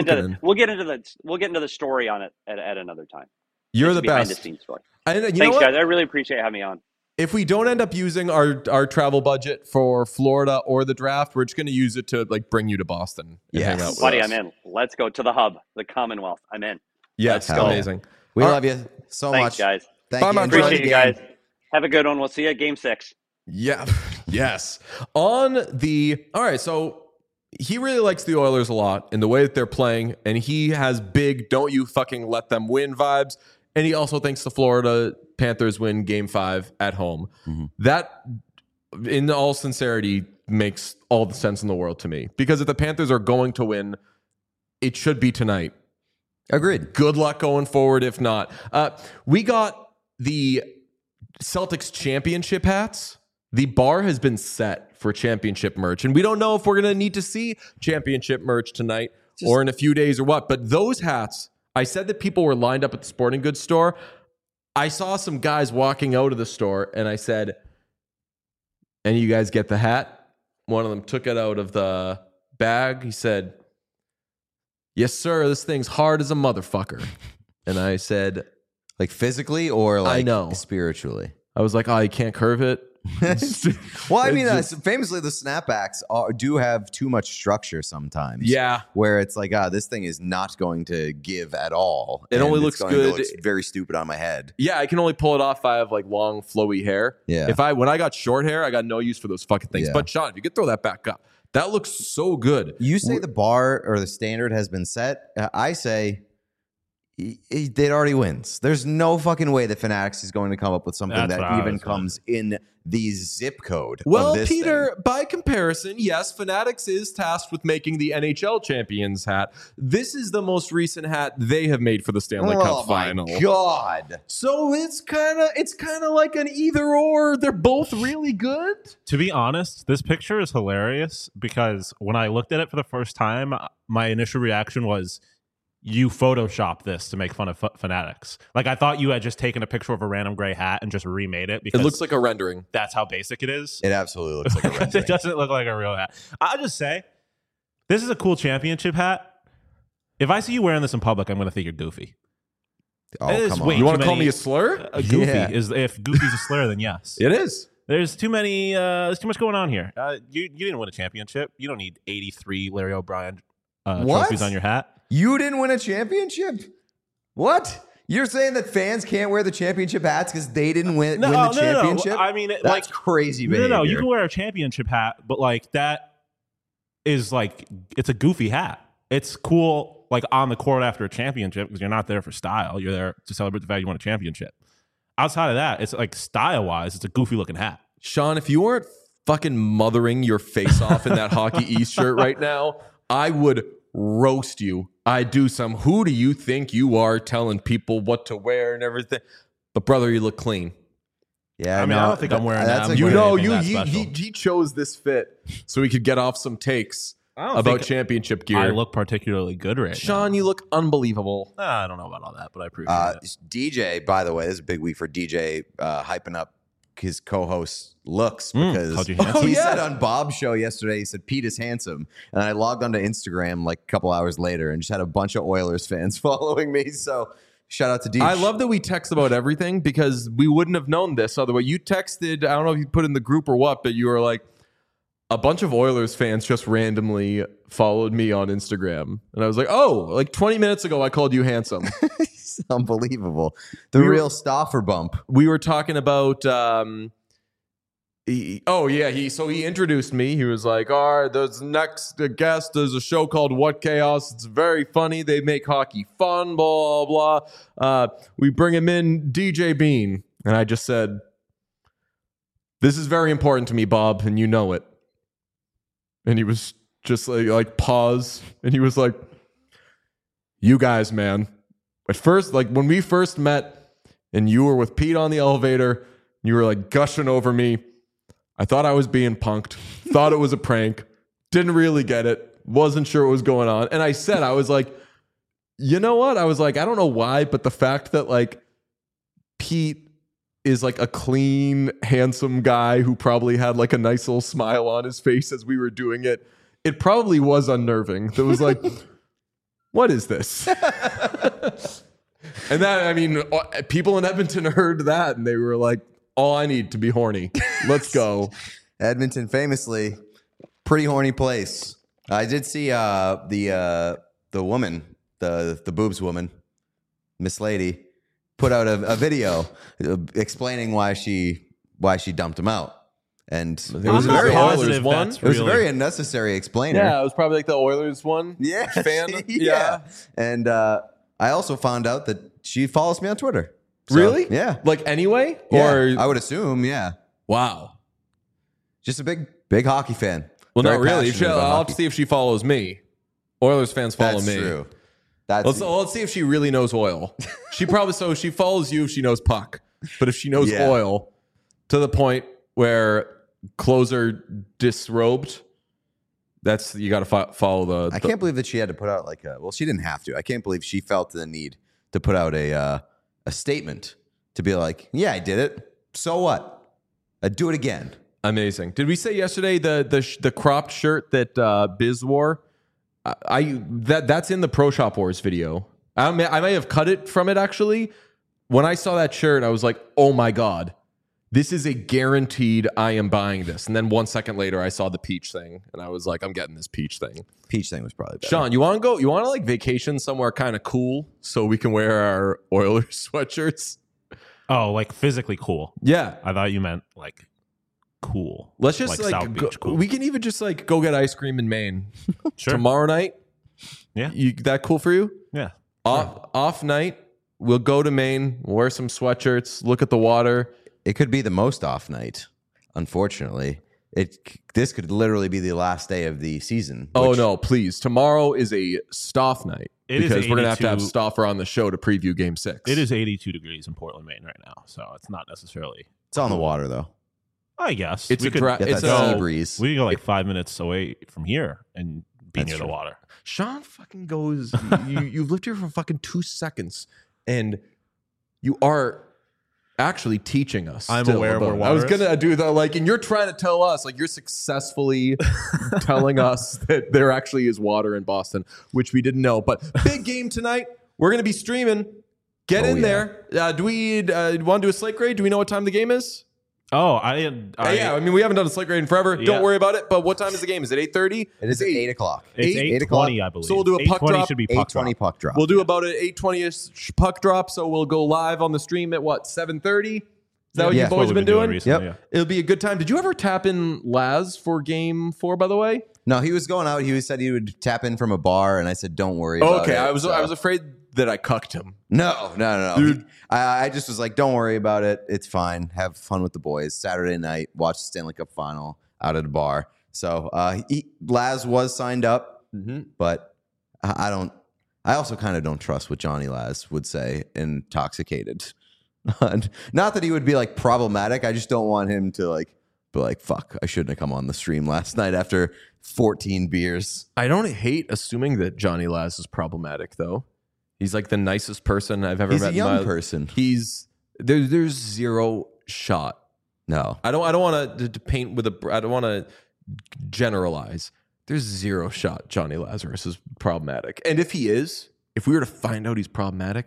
into the story on it at another time. You're the best. Behind the scenes story. And Thanks, guys. I really appreciate having me on. If we don't end up using our travel budget for Florida or the draft, we're just going to use it to like bring you to Boston and hang out with buddy, us. I'm in. Let's go to the hub, the Commonwealth. I'm in. Yes, amazing. We love you so Thanks, much, guys. Thank you. Appreciate you guys. Have a good one. We'll see you at Game 6. Yeah. Yes. All right. So he really likes the Oilers a lot in the way that they're playing, and he has big "don't you fucking let them win" vibes. And he also thinks the Florida Panthers win Game 5 at home. Mm-hmm. That, in all sincerity, makes all the sense in the world to me. Because if the Panthers are going to win, it should be tonight. Agreed. Good luck going forward if not. We got the Celtics championship hats. The bar has been set for championship merch. And we don't know if we're going to need to see championship merch tonight or in a few days or what. But those hats... I said that people were lined up at the sporting goods store. I saw some guys walking out of the store, and I said, "Any of you guys get the hat?" One of them took it out of the bag. He said, "Yes, sir. This thing's hard as a motherfucker." And I said, "Like physically or like I know. Spiritually?" I was like, "Oh, you can't curve it." Well, I mean, famously, the snapbacks do have too much structure sometimes. Yeah. Where it's like, this thing is not going to give at all. It only looks good. It looks very stupid on my head. Yeah, I can only pull it off if I have like long, flowy hair. Yeah. When I got short hair, I got no use for those fucking things. Yeah. But Sean, if you could throw that back up, that looks so good. You say the bar or the standard has been set. I say it already wins. There's no fucking way that Fanatics is going to come up with something that even comes in the zip code. Well, of this Peter, thing. by comparison, yes, Fanatics is tasked with making the NHL champions hat. This is the most recent hat they have made for the Stanley Cup final. Oh my God. So it's kind of like an either or. They're both really good. To be honest, this picture is hilarious because when I looked at it for the first time, my initial reaction was, you Photoshop this to make fun of Fanatics. Like, I thought you had just taken a picture of a random gray hat and just remade it because It looks like a rendering. that's how basic it is. It absolutely looks like a rendering. It doesn't look like a real hat. I'll just say, this is a cool championship hat. If I see you wearing this in public, I'm going to think you're goofy. Oh, It is come way on. You want to too call many- me a slur? Goofy Yeah. is if goofy's a slur, then yes. It is. There's too many. There's too much going on here. You didn't win a championship. You don't need 83 Larry O'Brien What? trophies on your hat. You didn't win a championship? What? You're saying that fans can't wear the championship hats because they didn't win the championship? No. I mean, That's crazy no, behavior. no. You can wear a championship hat, but like that is like it's a goofy hat. It's cool, like on the court after a championship because you're not there for style. You're there to celebrate the fact you won a championship. Outside of that, it's like style wise, it's a goofy looking hat. Sean, if you weren't fucking mothering your face off in that Hockey East shirt right now, I would roast you. I do some. Who do you think you are telling people what to wear and everything? But brother, you look clean. Yeah, I mean, I don't think I'm wearing that. that's I'm a You wearing know, anything that he special. chose this fit so he could get off some takes about think championship gear. I look particularly good right Sean, you look unbelievable. now. I don't know about all that, but I appreciate it. DJ, by the way, this is a big week for DJ hyping up his co-host looks Called because you handsome? he Oh, said yeah. on Bob's show yesterday, he said Pete is handsome, and I logged onto Instagram like a couple hours later and just had a bunch of Oilers fans following me. So shout out to DJ. I love that we text about everything because we wouldn't have known this otherwise. You texted, I don't know if you put in the group or what, but you were like, a bunch of Oilers fans just randomly followed me on Instagram. And I was like, oh, like 20 minutes ago, I called you handsome. It's unbelievable. The real Stauffer bump. We were talking about, he introduced me. He was like, all right, there's next guest. There's a show called What Chaos. It's very funny. They make hockey fun, blah, blah. We bring him in, DJ Bean. And I just said, this is very important to me, Bob, and you know it. And he was just like pause. And he was like, you guys, man. At first, like when we first met and you were with Pete on the elevator, you were like gushing over me. I thought I was being punked, thought it was a prank, didn't really get it, wasn't sure what was going on. And I said, I was like, you know what? I was like, I don't know why, but the fact that like Pete is like a clean, handsome guy who probably had like a nice little smile on his face as we were doing it, it probably was unnerving. It was like, what is this? And that, I mean, people in Edmonton heard that and they were like, all I need to be horny. Let's go. Edmonton, famously, pretty horny place. I did see the woman, the boobs woman, Miss Lady, put out a video explaining why she dumped him out, and it was a not very positive one. that's it was a really- very unnecessary explainer. Yeah, it was probably like the Oilers one. Yeah, Fan. yeah. And I also found out that she follows me on Twitter. So, Really? Yeah. Like anyway? Yeah, Or I would assume. Yeah. wow. Just a big hockey fan. Well, Very not really. passionate about I'll have hockey. to see if she follows me. Oilers fans follow That's me. true. That's Let's see if she really knows oil. She probably she follows you if she knows puck, but if she knows Yeah. oil to the point where clothes are disrobed, that's you got to follow the. I can't believe that she had to put out like a. Well, she didn't have to. I can't believe she felt the need to put out a statement to be like, "Yeah, I did it. So what? I'd do it again." Amazing. Did we say yesterday the cropped shirt that Biz wore? That's in the Pro Shop Wars video. I may have cut it from it actually. When I saw that shirt, I was like, "Oh my god, this is a guaranteed. I am buying this." And then 1 second later, I saw the peach thing, and I was like, "I'm getting this peach thing." Peach thing was probably better. Sean, you want to go? You want to like vacation somewhere kind of cool so we can wear our Oilers sweatshirts? Oh, like physically cool. Yeah. I thought you meant like cool. Let's just like, South Beach cool. we can even just like go get ice cream in Maine Sure. tomorrow night. Yeah. That cool for you? Yeah. Off night, we'll go to Maine, wear some sweatshirts, look at the water. It could be the most off night. Unfortunately, this could literally be the last day of the season. Oh which- no, please! Tomorrow is a Stoff night It is because we're gonna have to have 82 Stoffer on the show to preview Game 6. It is 82 degrees in Portland, Maine right now. So it's not necessarily, It's on the water though. I guess. It's we a could dry. Get It's that sea a breeze. We can go like 5 minutes away from here and be That's near true. the water. Sean fucking goes. You've lived here for fucking 2 seconds, and you are actually teaching us. I'm still aware of where about- water I was is. gonna do that, like, and you're trying to tell us, like, you're successfully telling us that there actually is water in Boston, which we didn't know. But big game tonight. We're gonna be streaming. Get in there. Do we want to do a slate grade? Do we know what time the game is? Oh, Yeah, I mean, we haven't done a slate grade in forever. Yeah. Don't worry about it. But what time is the game? Is it 8:30? It is at 8 o'clock. it's 8:20, I believe. So we'll do a puck 8:20 drop. should be puck 8:20 drop. puck drop. We'll do about an 8:20ish puck drop. So we'll go live on the stream at what, 7:30? Is that what Yeah. you That's boys what have we've been doing? recently, Yep. It'll be a good time. Did you ever tap in Laz for game 4, by the way? No, he was going out. He said he would tap in from a bar, and I said, "Don't worry about Okay, it." I was So- afraid that I cucked him. No. Dude. I just was like, "Don't worry about it. It's fine. Have fun with the boys." Saturday night, watch the Stanley Cup final out at a bar. So Laz was signed up, but I don't. I also kind of don't trust what Johnny Laz would say intoxicated. Not that he would be like problematic. I just don't want him to like be like, "Fuck, I shouldn't have come on the stream last night after 14 beers." I don't hate assuming that Johnny Laz is problematic, though. He's like the nicest person I've ever He's met. a in young my- person. He's there's zero shot. No. I don't want to paint with I don't want to generalize. There's zero shot Johnny Lazarus is problematic. And if he is, if we were to find out he's problematic,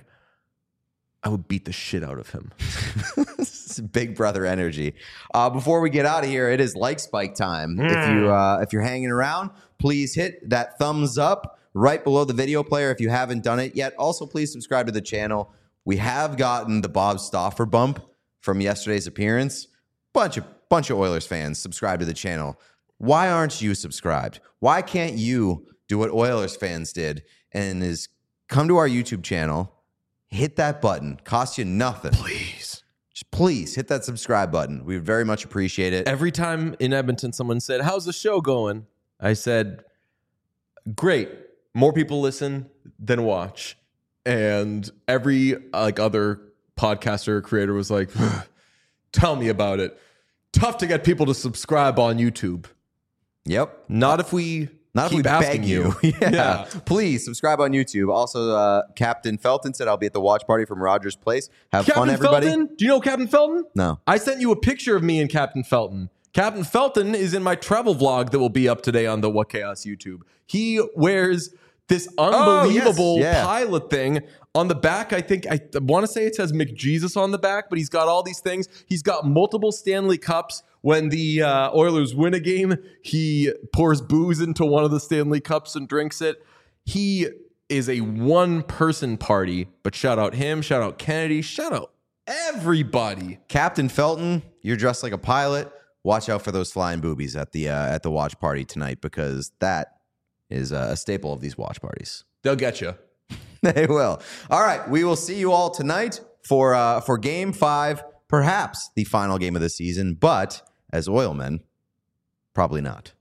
I would beat the shit out of him. This is Big Brother energy. Before we get out of here, it is like Spike time. If you're hanging around, please hit that thumbs up right below the video player if you haven't done it yet. Also, please subscribe to the channel. We have gotten the Bob Stauffer bump from yesterday's appearance. Bunch of Oilers fans subscribe to the channel. Why aren't you subscribed? Why can't you do what Oilers fans did and is come to our YouTube channel, hit that button, cost you nothing. Please. Just please hit that subscribe button. We would very much appreciate it. Every time in Edmonton someone said, "How's the show going?" I said, "Great. More people listen than watch." And every like other podcaster or creator was like, "Tell me about it. Tough to get people to subscribe on YouTube." Yep. Not if we keep asking beg you. Yeah. Please subscribe on YouTube. Also, Captain Felton said, "I'll be at the watch party from Rogers Place. Have fun, Captain everybody." Felton? Do you know Captain Felton? No. I sent you a picture of me and Captain Felton. Captain Felton is in my travel vlog that will be up today on the What Chaos YouTube. He wears this unbelievable yes. Yeah. pilot thing on the back. I want to say it says McJesus on the back, but he's got all these things. He's got multiple Stanley Cups. When the Oilers win a game, he pours booze into one of the Stanley Cups and drinks it. He is a one-person party, but shout out him, shout out Kennedy, shout out everybody. Captain Felton, you're dressed like a pilot. Watch out for those flying boobies at the watch party tonight, because that is a staple of these watch parties. They'll get you. They will. All right. We will see you all tonight for Game 5, perhaps the final game of the season, but as Oilmen, probably not.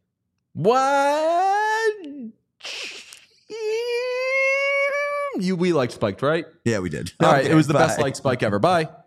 What? We liked Spiked, right? Yeah, we did. All right. Okay, It was the bye. best like Spike ever. Bye.